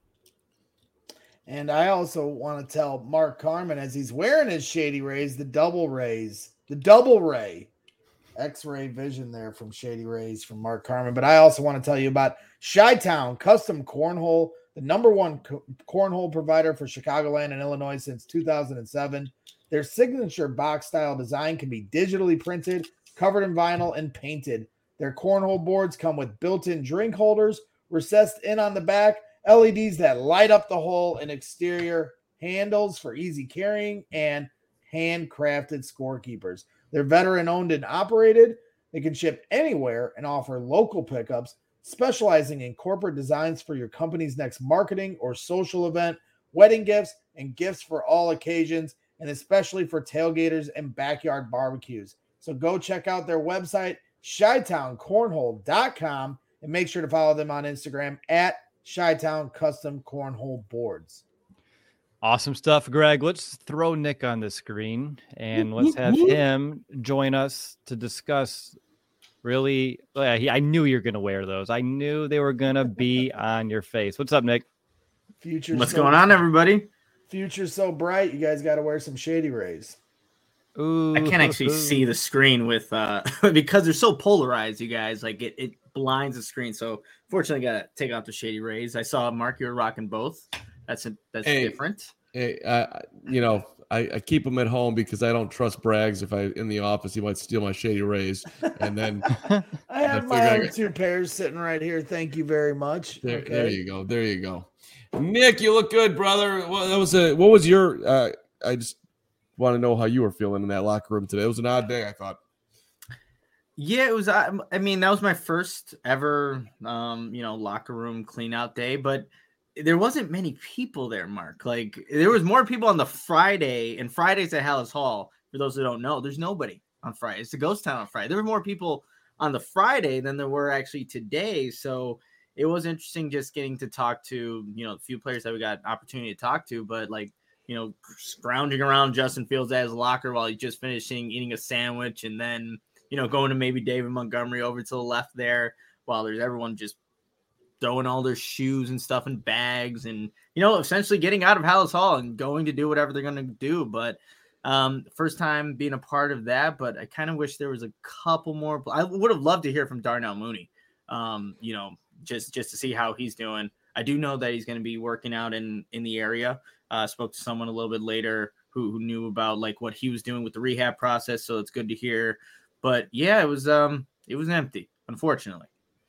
And I also want to tell Mark Carman, as he's wearing his Shady Rays, the double rays, the double ray, X-ray vision there from Shady Rays from Mark Carman. But I also want to tell you about Chi-Town Custom Cornhole, the number one co- cornhole provider for Chicagoland and Illinois since two thousand seven. Their signature box style design can be digitally printed, covered in vinyl, and painted. Their cornhole boards come with built-in drink holders, recessed in on the back, L E Ds that light up the hole, and exterior handles for easy carrying, and handcrafted scorekeepers. They're veteran-owned and operated. They can ship anywhere and offer local pickups, specializing in corporate designs for your company's next marketing or social event, wedding gifts, and gifts for all occasions, and especially for tailgaters and backyard barbecues. So go check out their website, chi town cornhole dot com, and make sure to follow them on Instagram at Chi-Town Custom Cornhole Boards. Awesome stuff, Greg. Let's throw Nick on the screen and let's have him join us to discuss really. Uh, he, I knew you were going to wear those. I knew they were going to be on your face. What's up, Nick? Future What's so, going on, everybody? Future's so bright. You guys got to wear some Shady Rays. Ooh, I can't actually see the screen with uh because they're so polarized, you guys. Like it, it blinds the screen. So fortunately, I gotta take out the Shady Rays. I saw Mark, you were rocking both. That's a, that's Hey. different. Hey, uh, you know, I, I keep them at home because I don't trust Braggs. If I in the office, he might steal my Shady Rays, and then I have I my figure I own got- two pairs sitting right here. Thank you very much. there, Okay. there you go, there you go. Nick, you look good, brother. Well, that was a what was your? Uh, I just want to know how you were feeling in that locker room today. It was an odd day, I thought. Yeah, it was. I, I mean, that was my first ever, um, you know, locker room clean out day. But there wasn't many people there, Mark. Like there was more people on the Friday, and Fridays at Hallis Hall. For those who don't know, there's nobody on Friday. It's a ghost town on Friday. There were more people on the Friday than there were actually today. So it was interesting just getting to talk to, you know, a few players that we got an opportunity to talk to, but like, you know, scrounging around Justin Fields at his locker while he's just finishing eating a sandwich, and then, you know, going to maybe David Montgomery over to the left there while there's everyone just throwing all their shoes and stuff in bags and, you know, essentially getting out of Hallis Hall and going to do whatever they're going to do. But um, first time being a part of that, but I kind of wish there was a couple more. I would have loved to hear from Darnell Mooney, um, you know, just, just to see how he's doing. I do know that he's going to be working out in, in the area. Uh, spoke to someone a little bit later who, who knew about like what he was doing with the rehab process. So it's good to hear, but yeah, it was, um, it was empty, unfortunately.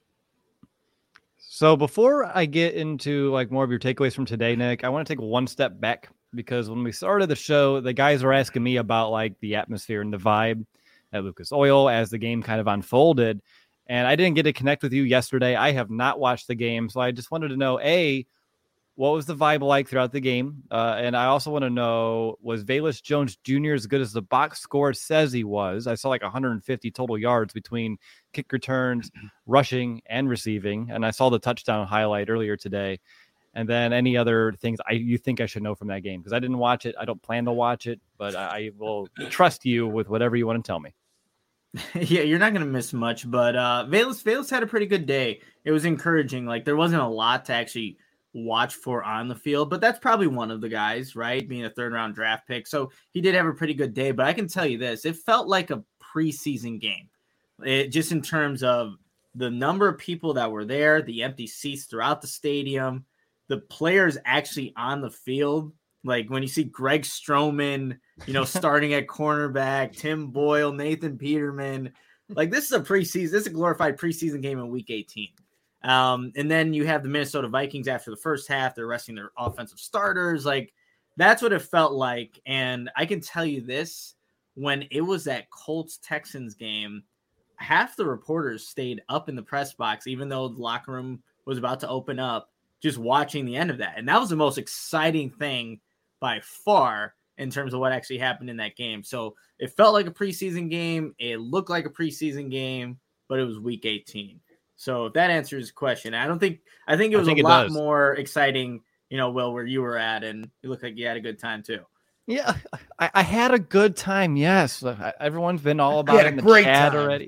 So before I get into like more of your takeaways from today, Nick, I want to take one step back, because when we started the show, the guys were asking me about like the atmosphere and the vibe at Lucas Oil as the game kind of unfolded. And I didn't get to connect with you yesterday. I have not watched the game. So I just wanted to know, A, what was the vibe like throughout the game? Uh, and I also want to know, was Velus Jones Junior as good as the box score says he was? I saw like one hundred fifty total yards between kick returns, rushing, and receiving. And I saw the touchdown highlight earlier today. And then any other things I you think I should know from that game? Because I didn't watch it. I don't plan to watch it, but I, I will trust you with whatever you want to tell me. Yeah, you're not going to miss much. But uh, Velus, Velus had a pretty good day. It was encouraging. Like, there wasn't a lot to actually watch for on the field, but that's probably one of the guys, right? Being a third round draft pick. So he did have a pretty good day, but I can tell you this, it felt like a preseason game. It, just in terms of the number of people that were there, the empty seats throughout the stadium, the players actually on the field. Like when you see Greg Stroman, you know, starting at cornerback, Tim Boyle, Nathan Peterman, like this is a preseason, this is a glorified preseason game in week eighteen. Um, and then you have the Minnesota Vikings after the first half, they're resting their offensive starters. Like that's what it felt like. And I can tell you this, when it was that Colts Texans game, half the reporters stayed up in the press box, even though the locker room was about to open up, just watching the end of that. And that was the most exciting thing by far in terms of what actually happened in that game. So it felt like a preseason game. It looked like a preseason game, but it was week eighteen. So if that answers the question, I don't think, I think it was think a lot does. more exciting, you know, Will, where you were at, and you look like you had a good time too. Yeah, I, I had a good time. Yes. Everyone's been all about it in the great chat time. already.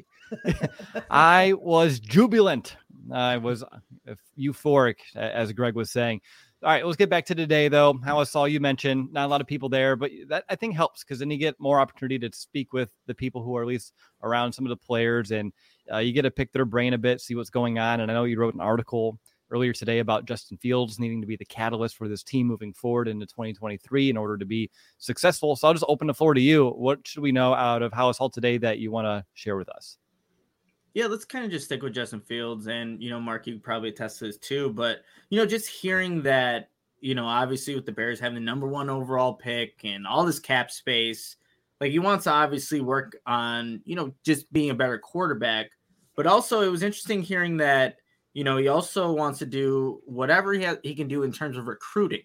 I was jubilant. I was euphoric, as Greg was saying. All right, let's get back to today, though. Hallis Hall, you mentioned not a lot of people there, but that I think helps because then you get more opportunity to speak with the people who are at least around some of the players, and uh, you get to pick their brain a bit, see what's going on. And I know you wrote an article earlier today about Justin Fields needing to be the catalyst for this team moving forward into twenty twenty-three in order to be successful. So I'll just open the floor to you. What should we know out of Hallis Hall today that you want to share with us? Yeah, let's kind of just stick with Justin Fields. And, you know, Mark, you probably attest to this too. But, you know, just hearing that, you know, obviously with the Bears having the number one overall pick and all this cap space, like he wants to obviously work on, you know, just being a better quarterback. But also it was interesting hearing that, you know, he also wants to do whatever he has, he can do in terms of recruiting.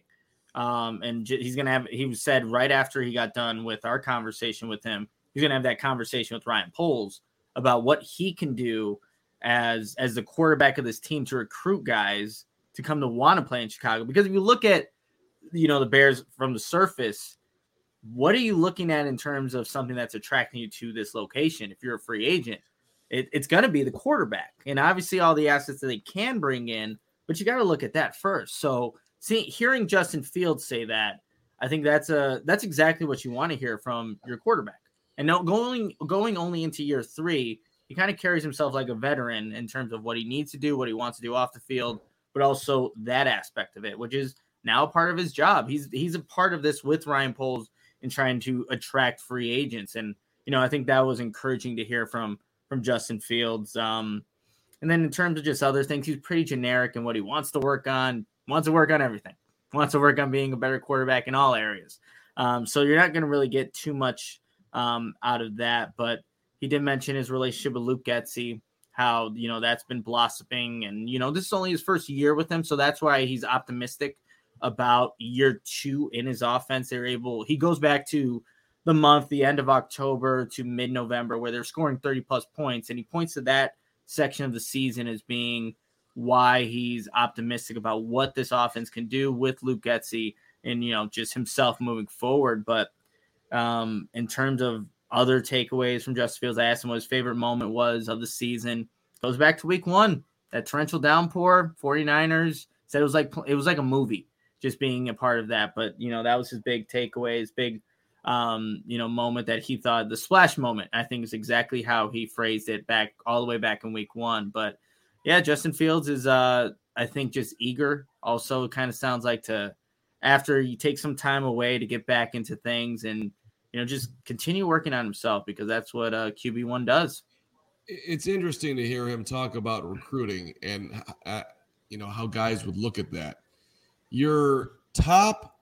Um, and j- he's going to have, he said right after he got done with our conversation with him, he's going to have that conversation with Ryan Poles about what he can do as as the quarterback of this team to recruit guys to come to want to play in Chicago. Because if you look at, you know, the Bears from the surface, what are you looking at in terms of something that's attracting you to this location? If you're a free agent, it, it's going to be the quarterback, and obviously all the assets that they can bring in, but you got to look at that first. So see, hearing Justin Fields say that, I think that's a, that's exactly what you want to hear from your quarterback. And now going going only into year three, he kind of carries himself like a veteran in terms of what he needs to do, what he wants to do off the field, but also that aspect of it, which is now part of his job. He's he's a part of this with Ryan Poles in trying to attract free agents. And, you know, I think that was encouraging to hear from from Justin Fields. Um, and then in terms of just other things, he's pretty generic in what he wants to work on, wants to work on everything, wants to work on being a better quarterback in all areas. Um, so you're not going to really get too much um, out of that, but he did mention his relationship with Luke Getsy, how, you know, that's been blossoming, and, you know, this is only his first year with him. So that's why he's optimistic about year two in his offense. They're able, he goes back to the month, the end of October to mid-November, where they're scoring thirty plus points. And he points to that section of the season as being why he's optimistic about what this offense can do with Luke Getsy and, you know, just himself moving forward. But um, in terms of other takeaways from Justin Fields, I asked him what his favorite moment was of the season. Goes back to week one, that torrential downpour, 49ers said it was like, it was like a movie just being a part of that. But, you know, that was his big takeaway, his big, um, you know, moment that he thought the splash moment, I think is exactly how he phrased it back all the way back in week one. But yeah, Justin Fields is, uh, I think, just eager. Also, kind of sounds like to, after you take some time away to get back into things and, you know, just continue working on himself, because that's what uh, Q B one does. It's interesting to hear him talk about recruiting and, uh, you know, how guys would look at that. Your top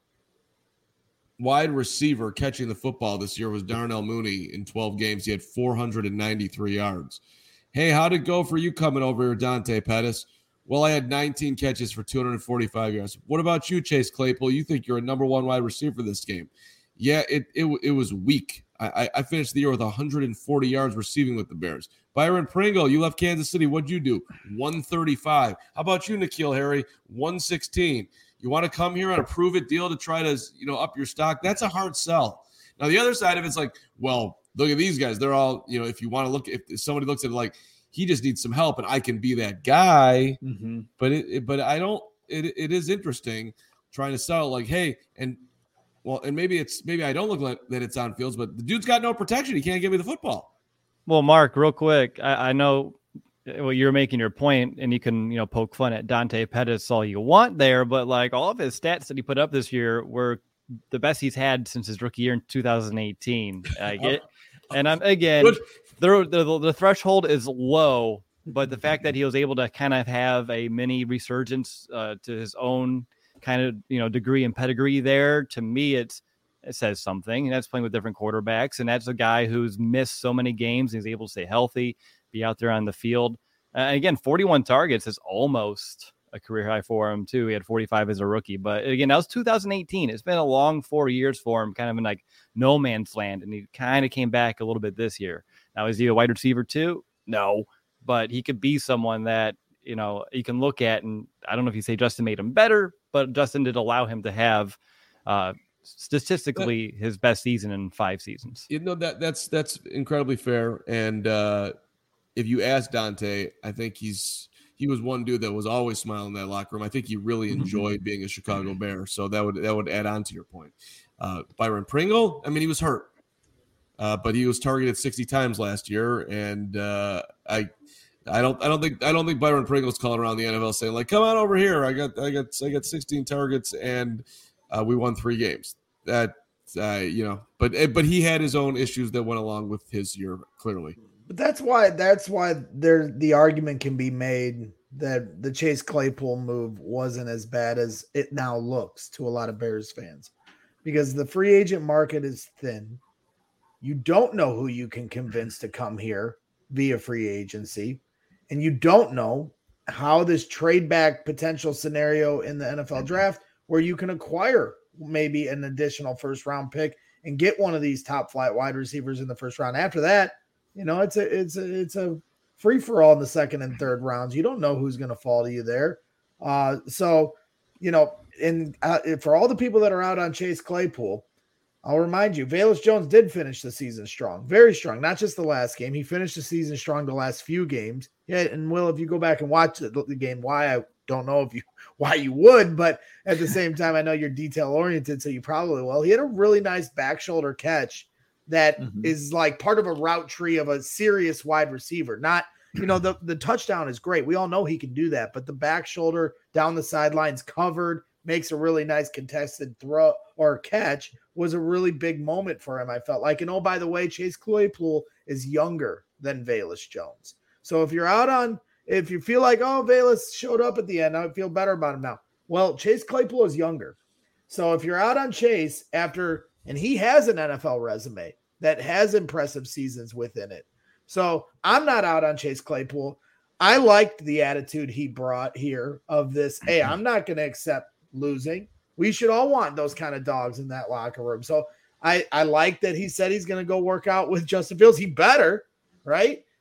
wide receiver catching the football this year was Darnell Mooney. In twelve games, he had four hundred ninety-three yards. Hey, how'd it go for you coming over here, Dante Pettis? Well, I had nineteen catches for two hundred forty-five yards. What about you, Chase Claypool? You think you're a number one wide receiver this game? Yeah, it it, it was weak. I, I finished the year with one hundred forty yards receiving with the Bears. Byron Pringle, you left Kansas City. What'd you do? one thirty-five. How about you, N'Keal Harry? one sixteen. You want to come here on a prove-it deal to try to, you know, up your stock? That's a hard sell. Now, the other side of it's like, well, look at these guys. They're all, you know, if you want to look, if somebody looks at it like, he just needs some help and I can be that guy. Mm-hmm. But it, it, but I don't, it, it is interesting trying to sell like, hey, and well, and maybe it's, maybe I don't look like that it's on Fields, but the dude's got no protection. He can't give me the football. Well, Mark, real quick, I, I know well, you're making your point, and you can, you know, poke fun at Dante Pettis all you want there, but like all of his stats that he put up this year were the best he's had since his rookie year in two thousand eighteen. I get, and I'm again, the, the the threshold is low, but the fact that he was able to kind of have a mini resurgence uh, to his own kind of, you know, degree and pedigree there, to me, it's it says something. And that's playing with different quarterbacks, and that's a guy who's missed so many games. And he's able to stay healthy, be out there on the field. Uh, again, forty-one targets is almost a career high for him too. He had forty-five as a rookie, but again, that was two thousand eighteen. It's been a long four years for him, kind of in like no man's land. And he kind of came back a little bit this year. Now, is he a wide receiver too? No, but he could be someone that, you know, you can look at, and I don't know if you say Justin made him better, but Justin did allow him to have, uh, statistically his best season in five seasons. You know, that that's that's incredibly fair. And uh if you ask Dante, I think he's he was one dude that was always smiling in that locker room. I think he really enjoyed being a Chicago Bear. So that would that would add on to your point. Uh Byron Pringle, I mean, he was hurt. Uh, but he was targeted sixty times last year, and uh I I don't I don't think I don't think Byron Pringle's calling around the N F L saying like, come on over here. I got I got I got sixteen targets and Uh, we won three games. That uh, you know, but but he had his own issues that went along with his year, clearly. But that's why that's why there the argument can be made that the Chase Claypool move wasn't as bad as it now looks to a lot of Bears fans, because the free agent market is thin. You don't know who you can convince to come here via free agency, and you don't know how this trade back potential scenario in the N F L draft, where you can acquire maybe an additional first round pick and get one of these top flight wide receivers in the first round. After that, you know, it's a, it's a, it's a free for all in the second and third rounds. You don't know who's going to fall to you there. Uh, so, you know, and uh, for all the people that are out on Chase Claypool, I'll remind you, Velus Jones did finish the season strong, very strong, not just the last game. He finished the season strong the last few games. Yeah. And Will, if you go back and watch the, the game, why I don't know if you why you would, but at the same time, I know you're detail oriented, so you probably will. He had a really nice back shoulder catch that mm-hmm. is like part of a route tree of a serious wide receiver. Not, you know, the, the touchdown is great. We all know he can do that, but the back shoulder down the sidelines covered makes a really nice contested throw or catch was a really big moment for him, I felt like. And oh, by the way, Chase Claypool is younger than Velus Jones. So if you're out on If you feel like, oh, Velus showed up at the end, I feel better about him now. Well, Chase Claypool is younger. So if you're out on Chase after, and he has an N F L resume that has impressive seasons within it. So I'm not out on Chase Claypool. I liked the attitude he brought here of this, hey, I'm not going to accept losing. We should all want those kind of dogs in that locker room. So I, I like that he said he's going to go work out with Justin Fields. He better, right?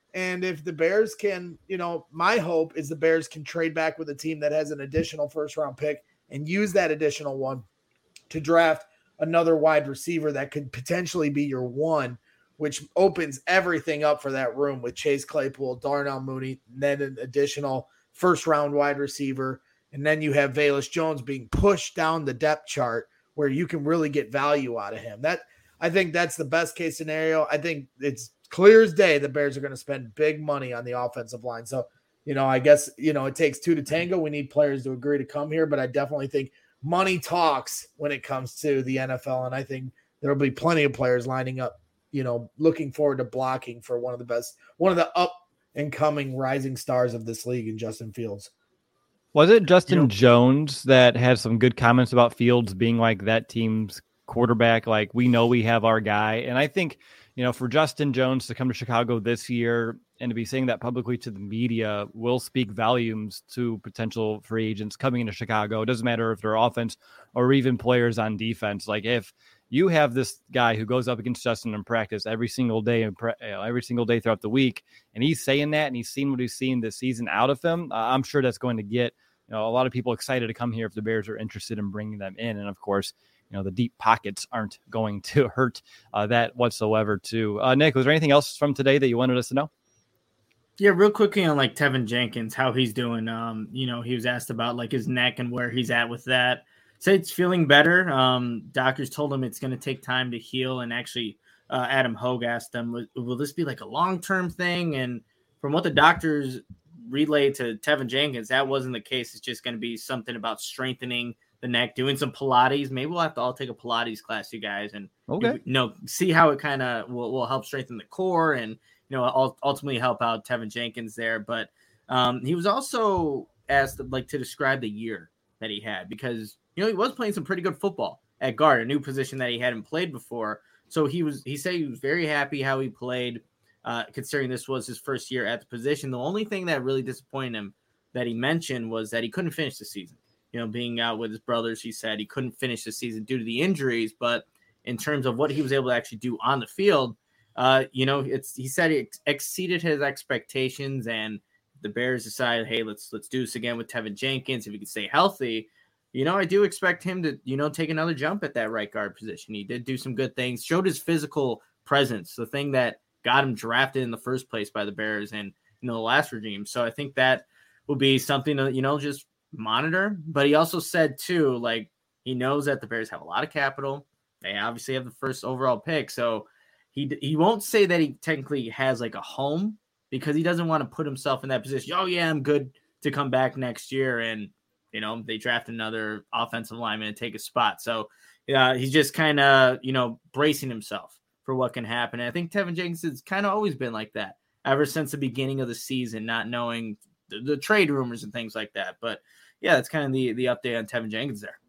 And if the Bears can, you know, my hope is the Bears can trade back with a team that has an additional first round pick and use that additional one to draft another wide receiver that could potentially be your one, which opens everything up for that room with Chase Claypool, Darnell Mooney, and then an additional first round wide receiver. And then you have Velus Jones being pushed down the depth chart where you can really get value out of him. That I think that's the best case scenario. I think it's clear as day the Bears are going to spend big money on the offensive line. So, you know, I guess, you know, it takes two to tango. We need players to agree to come here, but I definitely think money talks when it comes to the N F L. And I think there'll be plenty of players lining up, you know, looking forward to blocking for one of the best, one of the up and coming rising stars of this league in Justin Fields. Was it Justin You know- Jones that had some good comments about Fields being like that team's quarterback? Like, we know we have our guy. And I think, you know, for Justin Jones to come to Chicago this year and to be saying that publicly to the media will speak volumes to potential free agents coming into Chicago. It doesn't matter if they're offense or even players on defense. Like, if you have this guy who goes up against Justin in practice every single day, and pre- you know, every single day throughout the week, and he's saying that and he's seen what he's seen this season out of him, uh, I'm sure that's going to get, you know, a lot of people excited to come here if the Bears are interested in bringing them in. And of course, you know, the deep pockets aren't going to hurt uh, that whatsoever too. Uh, Nick, was there anything else from today that you wanted us to know? Yeah, real quickly on like Tevin Jenkins, how he's doing. Um, you know, he was asked about like his neck and where he's at with that. Said it's feeling better. Um, doctors told him it's going to take time to heal. And actually, uh, Adam Hogue asked them, will, will this be like a long-term thing? And from what the doctors relayed to Tevin Jenkins, that wasn't the case. It's just going to be something about strengthening the neck, doing some Pilates. Maybe we'll have to all take a Pilates class, you guys, and Okay. you know, see how it kind of will, will help strengthen the core and, you know, ultimately help out Tevin Jenkins there. But um, he was also asked like to describe the year that he had, because, you know, he was playing some pretty good football at guard, a new position that he hadn't played before. So he was, he said he was very happy how he played, uh, considering this was his first year at the position. The only thing that really disappointed him that he mentioned was that he couldn't finish the season. You know, being out with his brothers, he said he couldn't finish the season due to the injuries. But in terms of what he was able to actually do on the field, uh, you know, it's he said it exceeded his expectations. And the Bears decided, hey, let's let's do this again with Tevin Jenkins if he can stay healthy. You know, I do expect him to, you know, take another jump at that right guard position. He did do some good things, showed his physical presence, the thing that got him drafted in the first place by the Bears and, you know, the last regime. So I think that will be something to, you know, just monitor. But he also said too, like, he knows that the Bears have a lot of capital. They obviously have the first overall pick. So he he won't say that he technically has like a home, because he doesn't want to put himself in that position. Oh yeah, I'm good to come back next year. And, you know, they draft another offensive lineman and take a spot. So yeah, he's just kind of, you know, bracing himself for what can happen. And I think Tevin Jenkins has kind of always been like that ever since the beginning of the season, not knowing the, the trade rumors and things like that. But yeah, that's kind of the, the update on Tevin Jenkins there.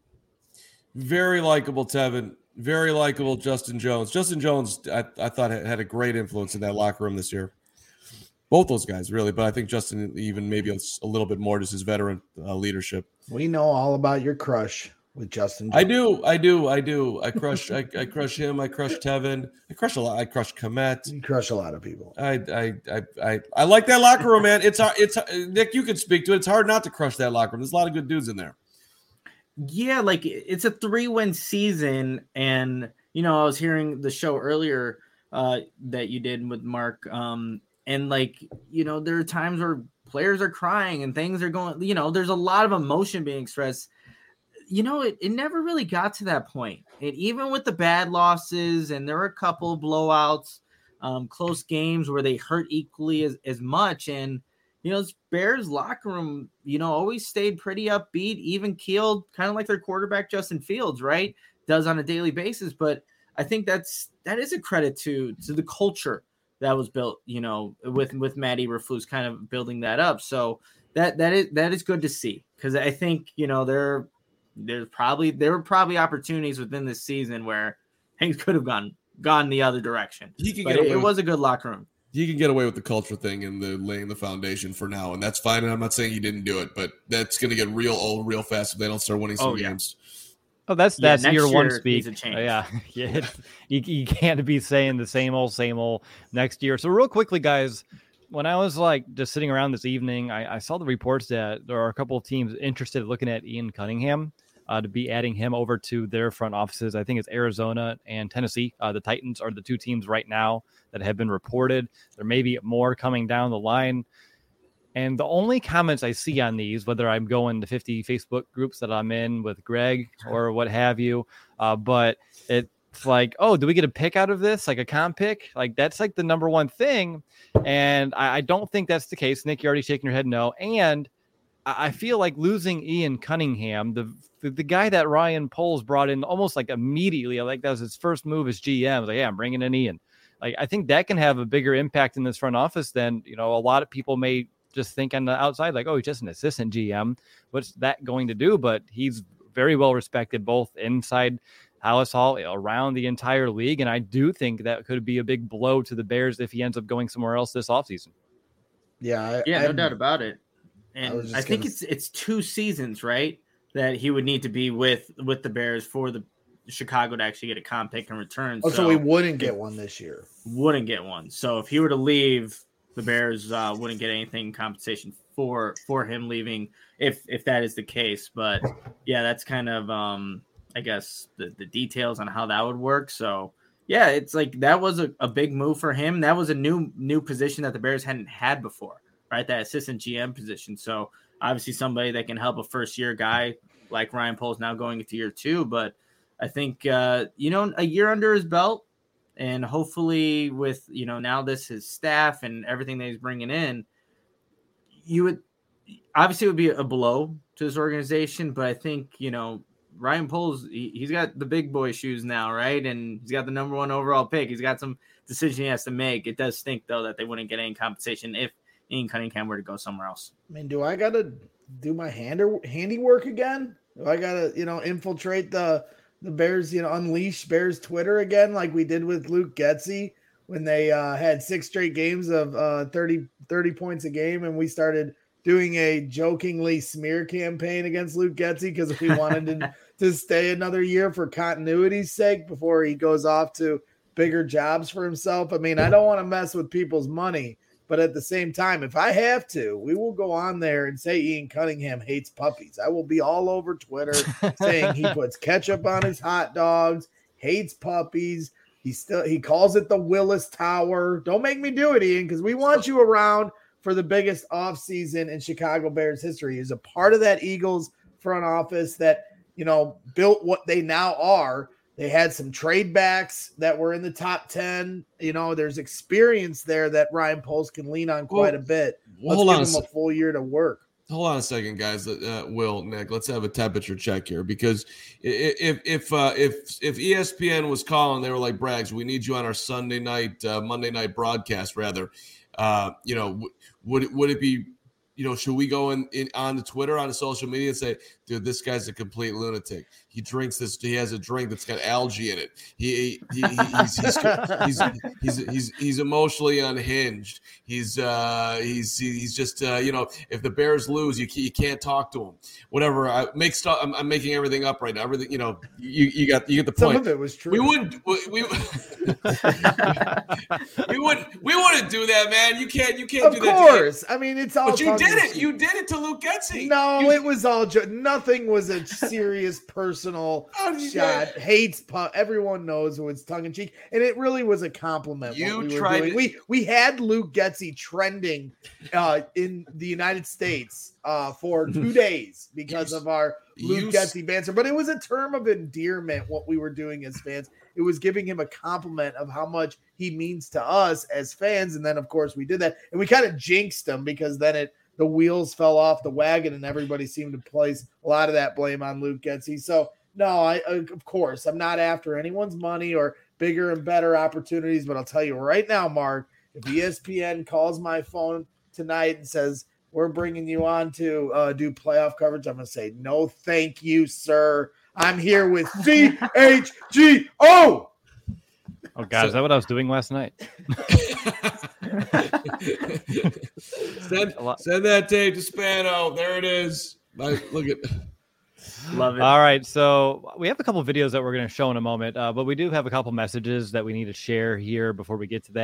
Very likable Tevin. Very likable Justin Jones. Justin Jones, I, I thought, had a great influence in that locker room this year. Both those guys, really. But I think Justin even maybe a little bit more, just his veteran uh, leadership. We know all about your crush with Justin Jones. I do. I do. I do. I crush I, I crush him. I crush Tevin. I crush a lot. I crush Komet. You crush a lot of people. I I I I, I like that locker room, man. It's it's Nick, you can speak to it. It's hard not to crush that locker room. There's a lot of good dudes in there. Yeah, like it's a three-win season, and you know, I was hearing the show earlier uh, that you did with Mark, um, and like, you know, there are times where players are crying and things are going, you know, there's a lot of emotion being expressed. You know, it, it never really got to that point. And even with the bad losses, and there were a couple of blowouts, um, close games where they hurt equally as, as much. And, you know, this Bears locker room, you know, always stayed pretty upbeat, even keeled, kind of like their quarterback, Justin Fields, right? Does on a daily basis. But I think that's, that is a credit to, to the culture that was built, you know, with, with Matt Eberflus kind of building that up. So that, that is, that is good to see. Cause I think, you know, there, there's probably, there were probably opportunities within this season where things could have gone, gone the other direction. He could but get it, away it with- was a good locker room. He can get away with the culture thing and the laying the foundation for now, and that's fine. And I'm not saying he didn't do it, but that's going to get real old real fast if they don't start winning some Oh, yeah. games. Oh, that's Yeah, that's next year one year speak. needs a change. Uh, yeah, yeah. It's, you, you can't be saying the same old, same old next year. So real quickly, guys, when I was like just sitting around this evening, I, I saw the reports that there are a couple of teams interested in looking at Ian Cunningham uh, to be adding him over to their front offices. I think it's Arizona and Tennessee. Uh, the Titans are the two teams right now that have been reported. There may be more coming down the line. And the only comments I see on these, whether I'm going to fifty Facebook groups that I'm in with Greg or what have you, uh, but it, it's like, oh, do we get a pick out of this? Like a comp pick? Like that's like the number one thing. And I, I don't think that's the case. Nick, you're already shaking your head no. And I, I feel like losing Ian Cunningham, the, the the guy that Ryan Poles brought in almost like immediately, like that was his first move as G M. I was like, yeah, I'm bringing in Ian. Like I think that can have a bigger impact in this front office than, you know, a lot of people may just think on the outside, like, oh, he's just an assistant G M. What's that going to do? But he's very well respected both inside Halas Hall, around the entire league. And I do think that could be a big blow to the Bears if he ends up going somewhere else this offseason. Yeah. I, yeah, I, no doubt about it. And I, I think gonna... it's it's two seasons, right, that he would need to be with with the Bears for the Chicago to actually get a comp pick in return. Oh, so, so we wouldn't get one this year. Wouldn't get one. So if he were to leave, the Bears uh, wouldn't get anything compensation for for him leaving if if that is the case. But yeah, that's kind of um I guess the, the details on how that would work. So yeah, it's like that was a, a big move for him. That was a new new position that the Bears hadn't had before, right? That assistant G M position. So obviously somebody that can help a first year guy like Ryan Poles now going into year two. But I think uh, you know, a year under his belt, and hopefully with, you know, now this his staff and everything that he's bringing in, you would obviously it would be a blow to this organization. But I think, you know, Ryan Poles, he, he's got the big boy shoes now, right? And he's got the number one overall pick. He's got some decision he has to make. It does stink, though, that they wouldn't get any compensation if Ian Cunningham were to go somewhere else. I mean, do I got to do my hand handiwork again? Do I got to, you know, infiltrate the the Bears, you know, unleash Bears Twitter again like we did with Luke Getsy when they uh, had six straight games of uh, thirty, thirty points a game, and we started doing a jokingly smear campaign against Luke Getsy because we wanted to, to stay another year for continuity's sake before he goes off to bigger jobs for himself. I mean, I don't want to mess with people's money, but at the same time, if I have to, we will go on there and say Ian Cunningham hates puppies. I will be all over Twitter saying he puts ketchup on his hot dogs, hates puppies. He still he calls it the Willis Tower. Don't make me do it, Ian, because we want you around for the biggest offseason in Chicago Bears history. He's a part of that Eagles front office that, you know, built what they now are. They had some trade backs that were in the top ten. You know, there's experience there that Ryan Poles can lean on quite well, a bit. Let's hold give on him a, a full year to work. Hold on a second, guys. Uh, Will, Nick, let's have a temperature check here, because if if uh, if if E S P N was calling, they were like, Braggs, we need you on our Sunday night, uh, Monday night broadcast, rather. Uh, you know, w- would would it be, you know, should we go in, in on the Twitter, on the social media and say, dude, this guy's a complete lunatic. He drinks this. He has a drink that's got algae in it. He, he, he he's, he's, he's, he's, he's, he's emotionally unhinged. He's, uh, he's, he's just, uh, you know, if the Bears lose, you, you can't talk to him. Whatever. I make stuff. I'm, I'm making everything up right now. Everything, you know, you, you got, you get the point. Some of it was true. We wouldn't, we, we, we wouldn't, we wouldn't do that, man. You can't, you can't of do that. Of course. I mean, it's all. But you did it. You did it to Luke Getsy. No, you, it was all. Jo- nothing was a serious personal shot. Hates pu- everyone knows who it's tongue in cheek, and it really was a compliment. You what we tried. Were doing. To- we we had Luke Getsy trending uh, in the United States uh, for two days because of our Luke you, Getsy banter. But it was a term of endearment. What we were doing as fans, it was giving him a compliment of how much he means to us as fans. And then, of course, we did that, and we kind of jinxed him because then it. The wheels fell off the wagon and everybody seemed to place a lot of that blame on Luke Getsy. So, no, I, of course, I'm not after anyone's money or bigger and better opportunities. But I'll tell you right now, Mark, if E S P N calls my phone tonight and says, we're bringing you on to uh, do playoff coverage, I'm going to say, no, thank you, sir. I'm here with C H G O. Oh, God, so, is that what I was doing last night? send, send that tape to Spano. There it is. Like, look at Love it. All right, so we have a couple of videos that we're going to show in a moment, uh, but we do have a couple messages that we need to share here before we get to that.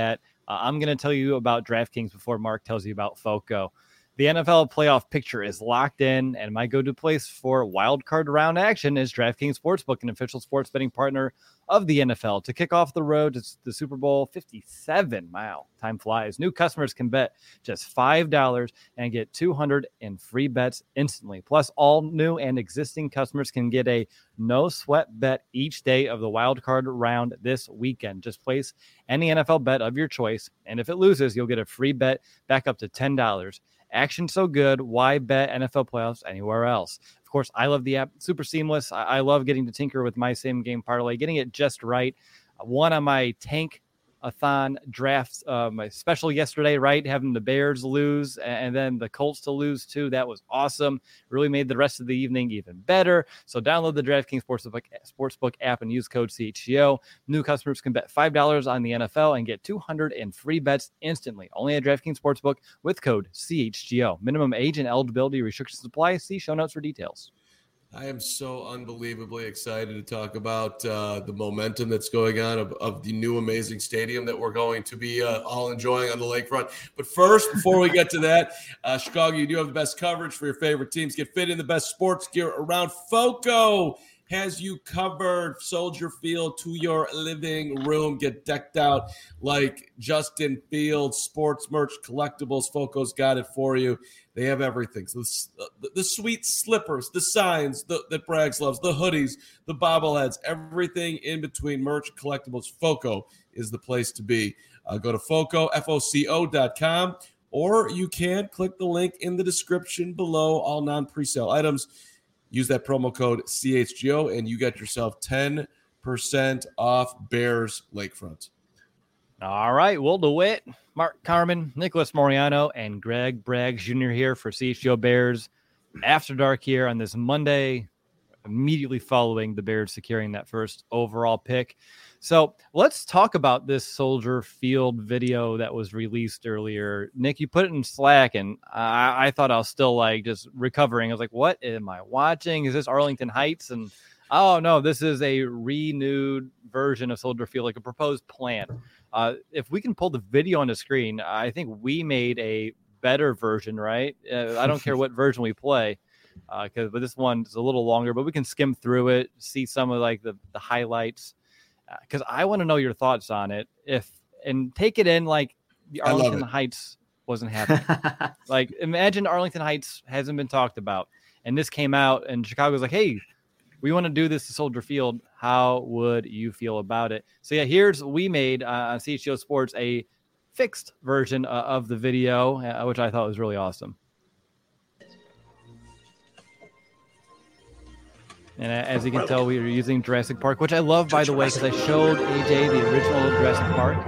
Uh, I'm going to tell you about DraftKings before Mark tells you about Foco. The N F L playoff picture is locked in, and my go-to place for wild card round action is DraftKings Sportsbook, an official sports betting partner of the N F L. To kick off the road to the Super Bowl fifty-seven, wow, time flies. New customers can bet just five dollars and get two hundred in free bets instantly. Plus, all new and existing customers can get a no-sweat bet each day of the wild card round this weekend. Just place any N F L bet of your choice, and if it loses, you'll get a free bet back up to ten dollars. Action so good, why bet N F L playoffs anywhere else? Of course, I love the app. Super seamless. I, I love getting to tinker with my same game parlay, getting it just right. One on my tank-a-thon drafts, uh, my special yesterday, right? Having the Bears lose and then the Colts to lose too. That was awesome. Really made the rest of the evening even better. So download the DraftKings Sportsbook, Sportsbook app and use code C H G O. New customers can bet five dollars on the N F L and get two hundred in free bets instantly. Only at DraftKings Sportsbook with code C H G O. Minimum age and eligibility restrictions apply. See show notes for details. I am so unbelievably excited to talk about uh, the momentum that's going on of, of the new amazing stadium that we're going to be uh, all enjoying on the lakefront. But first, before we get to that, uh, Chicago, you do have the best coverage for your favorite teams. Get fit in the best sports gear around. Foco has you covered. Soldier Field to your living room. Get decked out like Justin Fields. Sports merch, collectibles. Foco's got it for you. They have everything. So the, the, the sweet slippers, the signs the, that Braggs loves, the hoodies, the bobbleheads, everything in between merch, collectibles. Foco is the place to be. Uh, go to Foco, F O C O dot com, or you can click the link in the description below. All non-presale items. Use that promo code C H G O, and you get yourself ten percent off Bears Lakefront. All right, Will DeWitt, Mark Carman, Nicholas Moriano, and Greg Braggs Junior here for C H G O Bears After Dark here on this Monday, immediately following the Bears securing that first overall pick. So let's talk about this Soldier Field video that was released earlier. Nick, you put it in Slack, and I, I thought I was still like just recovering. I was like, what am I watching? Is this Arlington Heights? And oh, no, this is a renewed version of Soldier Field, like a proposed plan. Uh, if we can pull the video on the screen, I think we made a better version, right? Uh, I don't care what version we play, uh, cause, but this one is a little longer, but we can skim through it, see some of like the, the highlights, because uh, I want to know your thoughts on it. If and take it in like the Arlington Heights wasn't happening. Like imagine Arlington Heights hasn't been talked about, and this came out, and Chicago's like, hey, we want to do this to Soldier Field. How would you feel about it? So yeah, here's we made uh, on C H G O Sports a fixed version uh, of the video, uh, which I thought was really awesome. And as you can tell, we are using Jurassic Park, which I love, by the way, because I showed A J the original Jurassic Park.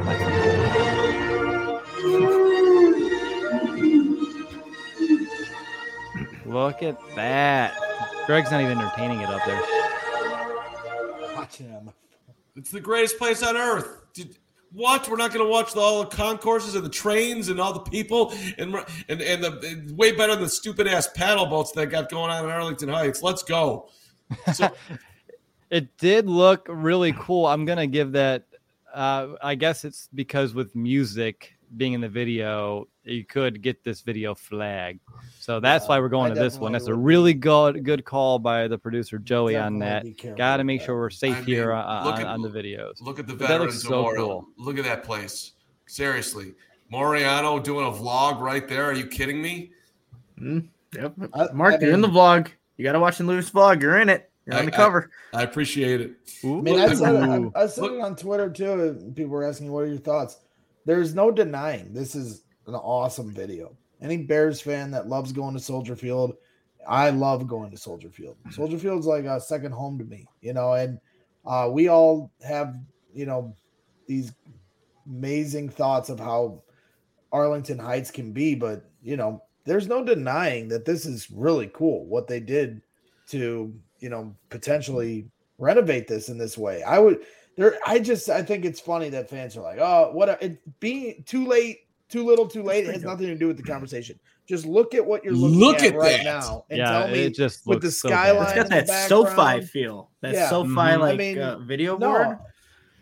Look at that. Greg's not even entertaining it up there. Watching him. It's the greatest place on earth. Did, what? We're not going to watch the, all the concourses and the trains and all the people and and and the and way better than the stupid ass paddle boats that got going on in Arlington Heights. Let's go. So, it did look really cool. I'm gonna give that. Uh, I guess it's because with music being in the video, you could get this video flagged. So that's yeah, why we're going I to this one. That's a would. really good good call by the producer Joey on that. Got to make that. sure we're safe I mean, here on, look on, at- on the videos. look at the But that looks Veterans so Memorial. cool. Look at that place. Seriously. Moriano doing a vlog right there. Are you kidding me? Mm, yep. I- Mark, I you're in the mean- vlog. You got to watch the Lewis vlog. You're in it. You're I- on the cover. I appreciate it. Ooh. I mean, I said, it, Ooh. I, I said Look- it on Twitter too. And people were asking, "What are your thoughts?" There's no denying this is an awesome video. Any Bears fan that loves going to Soldier Field, I love going to Soldier Field. Soldier Field's like a second home to me, you know. And uh, we all have, you know, these amazing thoughts of how Arlington Heights can be, but you know, there's no denying that this is really cool what they did to, you know, potentially renovate this in this way. I would there I just I think it's funny that fans are like, oh, what a, it being too late, too little, too late. It has nothing to do with the conversation. Just look at what you're looking Look at, at right that. now and Yeah, tell me it just with looks the so bad. skyline It's got in the that SoFi background. feel. That Yeah. SoFi Mhm. like I mean, uh, video no, board.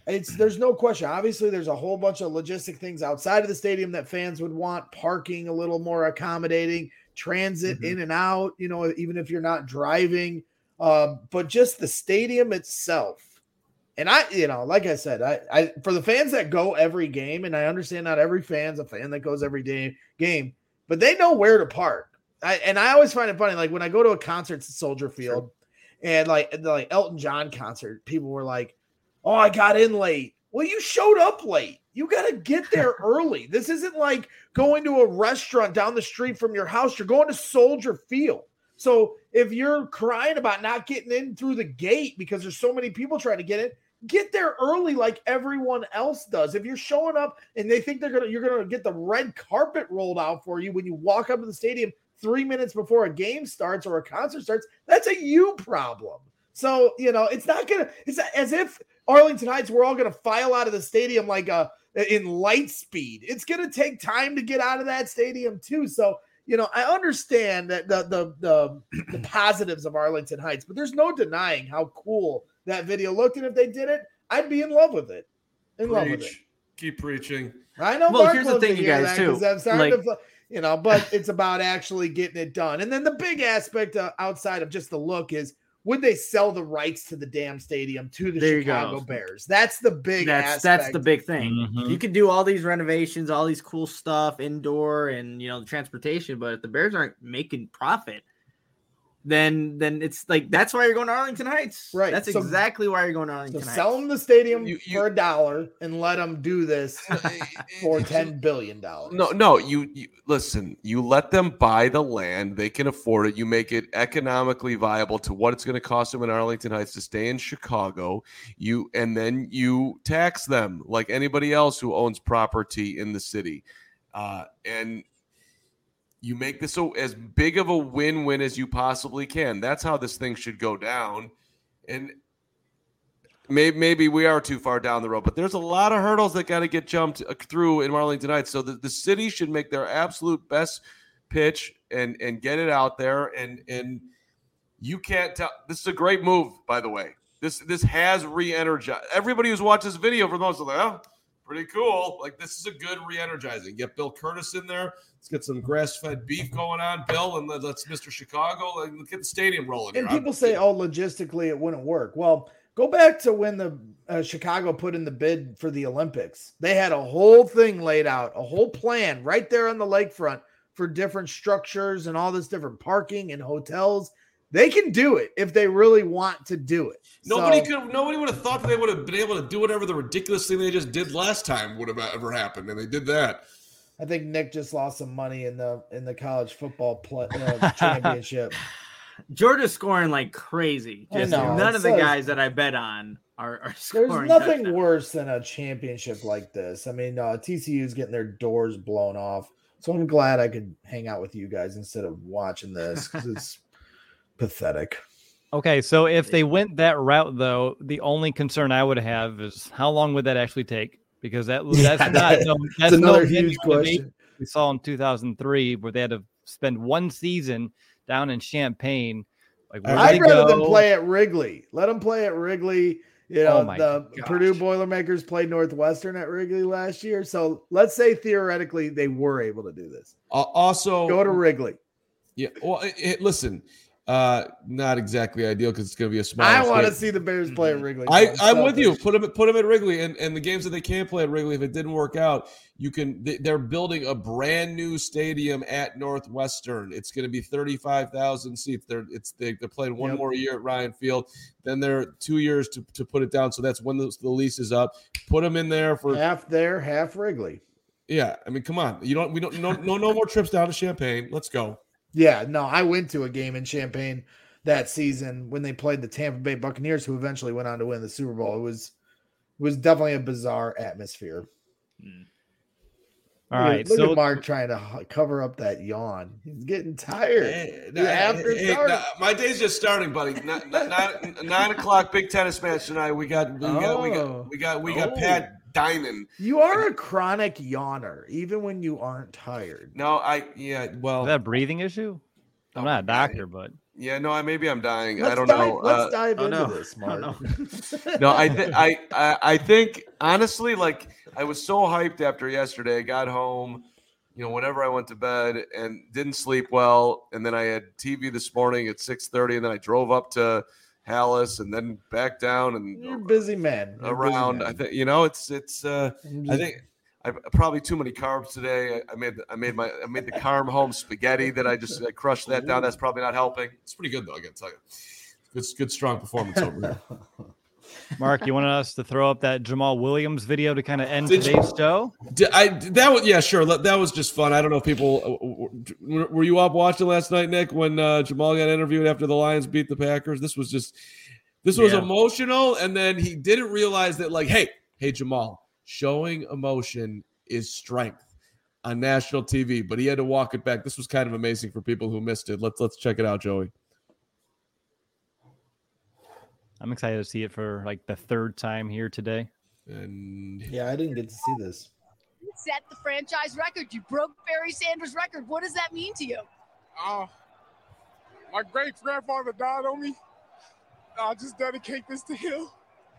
it's there's no question. Obviously, there's a whole bunch of logistic things outside of the stadium that fans would want. Parking a little more accommodating, transit Mhm. in and out. You know, even if you're not driving, um, but just the stadium itself. And I, you know, like I said, I, I for the fans that go every game, and I understand not every fan's a fan that goes every day game, but they know where to park. I, and I always find it funny, like when I go to a concert at Soldier Field, sure. and like the like Elton John concert, people were like, "Oh, I got in late." Well, you showed up late. You got to get there early. This isn't like going to a restaurant down the street from your house. You're going to Soldier Field. So if you're crying about not getting in through the gate because there's so many people trying to get in, get there early like everyone else does. If you're showing up and they think they're gonna you're gonna get the red carpet rolled out for you when you walk up to the stadium three minutes before a game starts or a concert starts, that's a you problem. So, you know, it's not gonna it's as if Arlington Heights, we're all gonna file out of the stadium like a in light speed. It's gonna take time to get out of that stadium too. So, you know, I understand that the the the, the positives of Arlington Heights, but there's no denying how cool that video looked. And if they did it, I'd be in love with it. In Preach. love with it. Keep preaching. I know. Well, Mark here's the loves thing, to you hear guys, that too. 'cause I'm starting Like- to, you know, but it's about actually getting it done. And then the big aspect uh, outside of just the look is, would they sell the rights to the damn stadium to the There you Chicago go. Bears? That's the big That's aspect. that's the big thing. Mhm. You could do all these renovations, all these cool stuff, indoor and you know the transportation, but if the Bears aren't making profit, then then it's like that's why you're going to Arlington Heights. Right. That's So- exactly why you're going to So Arlington Heights. sell them the stadium You- you- for a dollar and let them do this for ten billion dollars. No, no, you, you listen, you let them buy the land, they can afford it. You make it economically viable to what it's going to cost them in Arlington Heights to stay in Chicago. You and then you tax them like anybody else who owns property in the city. Uh, and you make this a, as big of a win-win as you possibly can. That's how this thing should go down. And maybe, maybe we are too far down the road, but there's a lot of hurdles that got to get jumped through in Arlington Heights. So the, the city should make their absolute best pitch and, and get it out there. And, and you can't tell. This is a great move, by the way. This, this has re-energized. Everybody who's watched this video for most of them, oh, pretty cool. Like, this is a good re-energizing. Get Bill Curtis in there. Let's get some grass-fed beef going on, Bill, and let's Mister Chicago and get the stadium rolling. And here. people I'm- say, oh, logistically it wouldn't work. Well, go back to when the uh, Chicago put in the bid for the Olympics. They had a whole thing laid out, a whole plan right there on the lakefront for different structures and all this different parking and hotels. They can do it if they really want to do it. Nobody So- could. Nobody would have thought that they would have been able to do whatever the ridiculous thing they just did last time would have ever happened, and they did that. I think Nick just lost some money in the in the college football play, uh, championship. Georgia's scoring like crazy. I Just know, none it's of the like- guys that I bet on are, are scoring. There's nothing touchdowns. worse than a championship like this. I mean, uh, T C U's getting their doors blown off. So I'm glad I could hang out with you guys instead of watching this because it's pathetic. Okay, so if they went that route, though, the only concern I would have is how long would that actually take? Because that that's Yeah, not no, That's that's another no huge venue question. we saw in two thousand three where they had to spend one season down in Champaign. Like, where I'd they rather them go? play at Wrigley. Let them play at Wrigley. You know, Oh my the gosh. Purdue Boilermakers played Northwestern at Wrigley last year. So let's say theoretically they were able to do this. Uh, also, Go to Wrigley. yeah. Well, it, it- listen, uh, not exactly ideal because it's going to be a small. I want to state. see the Bears play at Wrigley. I, So I'm with you. selfish. Put them, put them at Wrigley, and, and the games that they can play at Wrigley, if it didn't work out, you can. They, they're building a brand new stadium at Northwestern. It's going to be thirty-five thousand seats. They're it's they, they're playing one Yep. more year at Ryan Field. Then they're two years to, to put it down. So that's when the, the lease is up. Put them in there for Half there, half Wrigley. yeah. I mean, come on. You don't. We don't. No. No. No more trips down to Champaign. Let's go. Yeah, no, I went to a game in Champaign that season when they played the Tampa Bay Buccaneers, who eventually went on to win the Super Bowl. It was it was definitely a bizarre atmosphere. All Look at- right, look so at Mark trying to h- cover up that yawn. He's getting tired. Hey, Yeah, after hey, dark. nah, my day's just starting, buddy. Nine, nine, nine o'clock, big tennis match tonight. We got, we got, we Oh. got, we got, we got Oh. Pat dining. You are a chronic yawner, even when you aren't tired. No, I, yeah, well, is that a breathing issue? I'm Oh not a my God. doctor, but Yeah, no, I maybe I'm dying. Let's I don't dive, know. Let's Uh, dive oh, into no. this, Oh, Mark. no. no, I, th- I I I think honestly, like I was so hyped after yesterday. I got home, you know, whenever I went to bed and didn't sleep well, and then I had T V this morning at six thirty, and then I drove up to Hallis and then back down and You're a busy man. You're a busy around. man. I think you know it's it's. Uh, I'm I just- think. I probably too many carbs today. I, I made I made my I made the Carm home spaghetti that I just I crushed that down. That's probably not helping. It's pretty good though. I got to tell you, good, good, strong performance over here. Mark, you wanted us to throw up that Jamal Williams video to kind of end Did you- today's show? Did I that was yeah sure that was just fun. I don't know if people were, were you up watching last night, Nick, when uh, Jamal got interviewed after the Lions beat the Packers. This was just this was Yeah. emotional, and then he didn't realize that like hey hey Jamal, showing emotion is strength on national T V, but he had to walk it back. This was kind of amazing for people who missed it. Let's let's check it out, Joey. I'm excited to see it for like the third time here today. And yeah, I didn't get to see this. You set the franchise record. You broke Barry Sanders' record. What does that mean to you? Uh, my great grandfather died on me. I just dedicate this to him.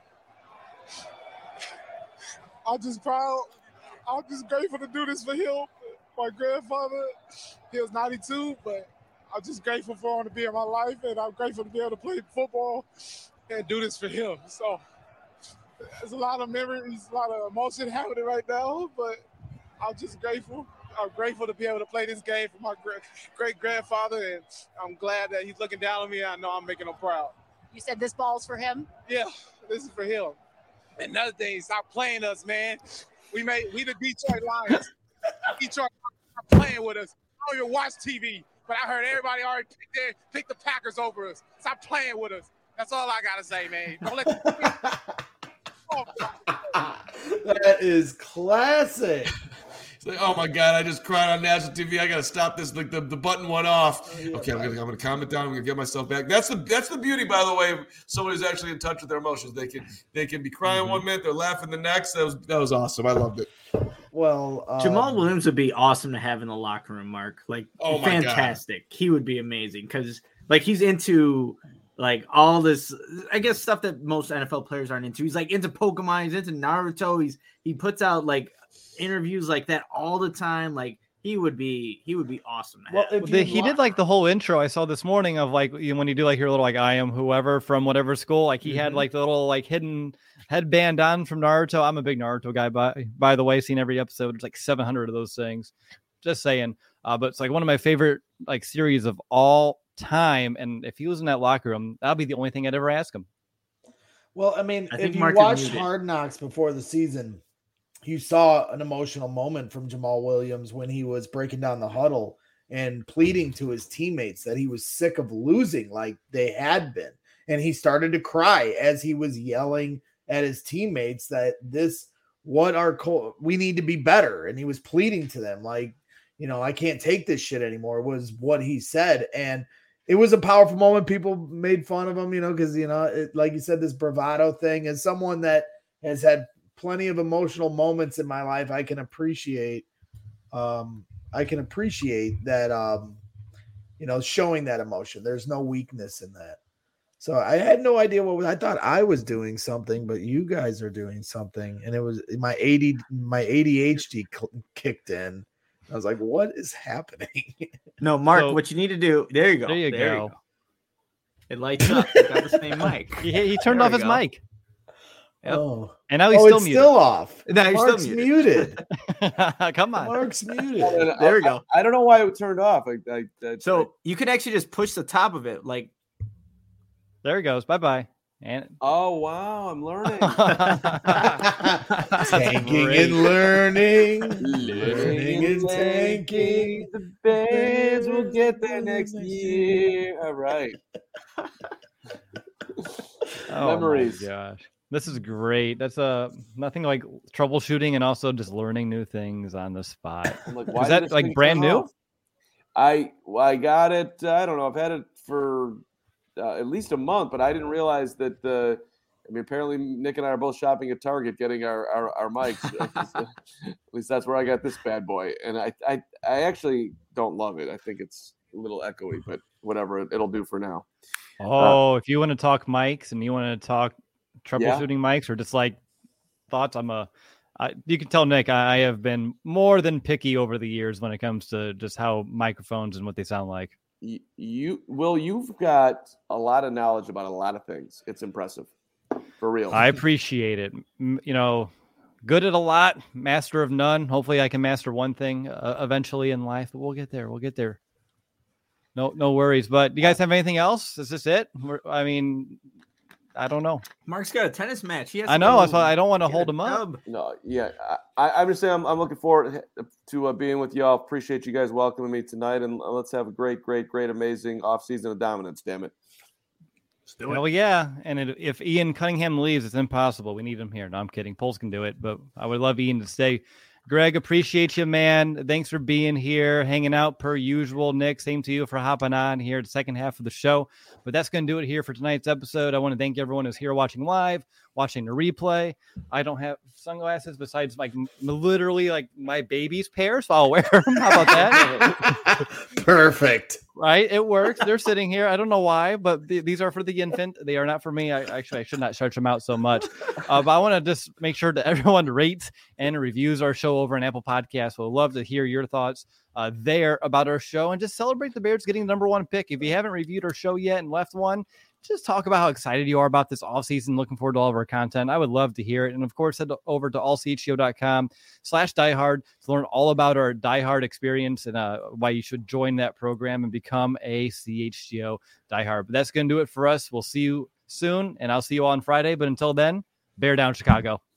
I'm just proud. I'm just grateful to do this for him. My grandfather, he was ninety-two, but I'm just grateful for him to be in my life, and I'm grateful to be able to play football and do this for him. So there's a lot of memories, a lot of emotion happening right now, but I'm just grateful. I'm grateful to be able to play this game for my great grandfather, and I'm glad that he's looking down on me. And I know I'm making him proud. You said this ball's for him? Yeah, this is for him. And another thing, stop playing us, man. We made we the Detroit Lions. Detroit are playing with us. I don't even watch T V, but I heard everybody already pick, their, pick the Packers over us. Stop playing with us. That's all I gotta say, man. Don't let That is classic. it's like, oh my god, I just cried on national T V. I gotta stop this. Like the, the button went off. Okay, I'm gonna I'm gonna calm it down. I'm gonna get myself back. That's the that's the beauty, by the way, of someone who's actually in touch with their emotions. They can they can be crying Mm-hmm. one minute, they're laughing the next. That was that was awesome. I loved it. Well, um, Jamal Williams would be awesome to have in the locker room, Mark. Like, Oh my God. fantastic. He would be amazing because, like, he's into like all this, I guess, stuff that most N F L players aren't into. He's like into Pokemon. He's into Naruto. He's he puts out like interviews like that all the time. Like, he would be he would be awesome. To Well, have. if The, you he lo- did like the whole intro I saw this morning of like you know, when you do like your little like I am whoever from whatever school. Like he had Mhm. like the little like hidden headband on from Naruto. I'm a big Naruto guy, by by the way. Seen every episode. There's like seven hundred of those things. Just saying. Uh, but it's like one of my favorite like series of all time. And if he was in that locker room, that'd be the only thing I'd ever ask him. Well, I mean, I if think you Mark is watched muted. Hard Knocks before the season, you saw an emotional moment from Jamal Williams when he was breaking down the huddle and pleading to his teammates that he was sick of losing like they had been. And he started to cry as he was yelling at his teammates that this, what our, co- we need to be better. And he was pleading to them like, you know, I can't take this shit anymore was what he said. And it was a powerful moment. People made fun of him, you know, because, you know, it, like you said, this bravado thing. As someone that has had plenty of emotional moments in my life, I can appreciate, um, I can appreciate that, um, you know, showing that emotion. There's no weakness in that. So I had no idea what was, I thought I was doing something, but you guys are doing something. And it was my A D, my A D H D cl- kicked in. I was like, what is happening? No, Mark, So- what you need to do. There you go. There you go. It lights up. You got the same mic. He, he turned There off we his go. mic. Yep. Oh, And now he's oh still it's muted. still off. No, he's still Mark's muted. muted. Come on. Mark's muted. There we go. I, I don't know why it turned off. I, I, I, So you can actually just push the top of it. Like, There he goes. Bye bye. And oh wow, I'm learning. Tanking Great. and learning. Learning and tanking. The Bears will get there next year. All right. Oh Memories. my gosh. This is great. That's uh nothing like troubleshooting and also just learning new things on the spot. I'm like, Is why did that this like thing brand turn new? off? I well, I got it. uh, I don't know. I've had it for uh, at least a month, but I didn't realize that the. I mean, apparently Nick and I are both shopping at Target getting our our, our mics. At least that's where I got this bad boy, and I, I I actually don't love it. I think it's a little echoey, but whatever, it, it'll do for now. Oh, uh, if you want to talk mics and you want to talk troubleshooting yeah. mics or just like thoughts, I'm a. I, you can tell Nick I, I have been more than picky over the years when it comes to just how microphones and what they sound like. You, you Will, you've got a lot of knowledge about a lot of things. It's impressive, for real. I appreciate it. You know, good at a lot, master of none. Hopefully, I can master one thing uh, eventually in life. But we'll get there. We'll get there. No, no worries. But do you guys have anything else? Is this it? We're, I mean. I don't know. Mark's got a tennis match. He has I know. That's why I don't want to hold him up. No, yeah. I, I'm just saying I'm, I'm looking forward to uh, being with y'all. Appreciate you guys welcoming me tonight. And let's have a great, great, great, amazing offseason of dominance, damn it. Let's do it. Hell yeah. And it, if Ian Cunningham leaves, it's impossible. We need him here. No, I'm kidding. Poles can do it. But I would love Ian to stay. Greg, appreciate you, man. Thanks for being here, hanging out per usual. Nick, same to you for hopping on here the second half of the show. But that's going to do it here for tonight's episode. I want to thank everyone who's here watching live, watching the replay. I don't have sunglasses besides like literally like my baby's pair, so I'll wear them. How about that? Perfect. Right? It works. They're sitting here. I don't know why, but th- these are for the infant. They are not for me. I actually I should not stretch them out so much. Uh, but I want to just make sure that everyone rates and reviews our show over on Apple Podcasts. We'll love to hear your thoughts uh, there about our show and just celebrate the Bears getting the number one pick. If you haven't reviewed our show yet and left one, just talk about how excited you are about this offseason. Looking forward to all of our content. I would love to hear it. And of course, head over to all c h g o dot com slash diehard to learn all about our diehard experience and uh, why you should join that program and become a C H G O diehard. But that's going to do it for us. We'll see you soon, and I'll see you on Friday. But until then, bear down, Chicago.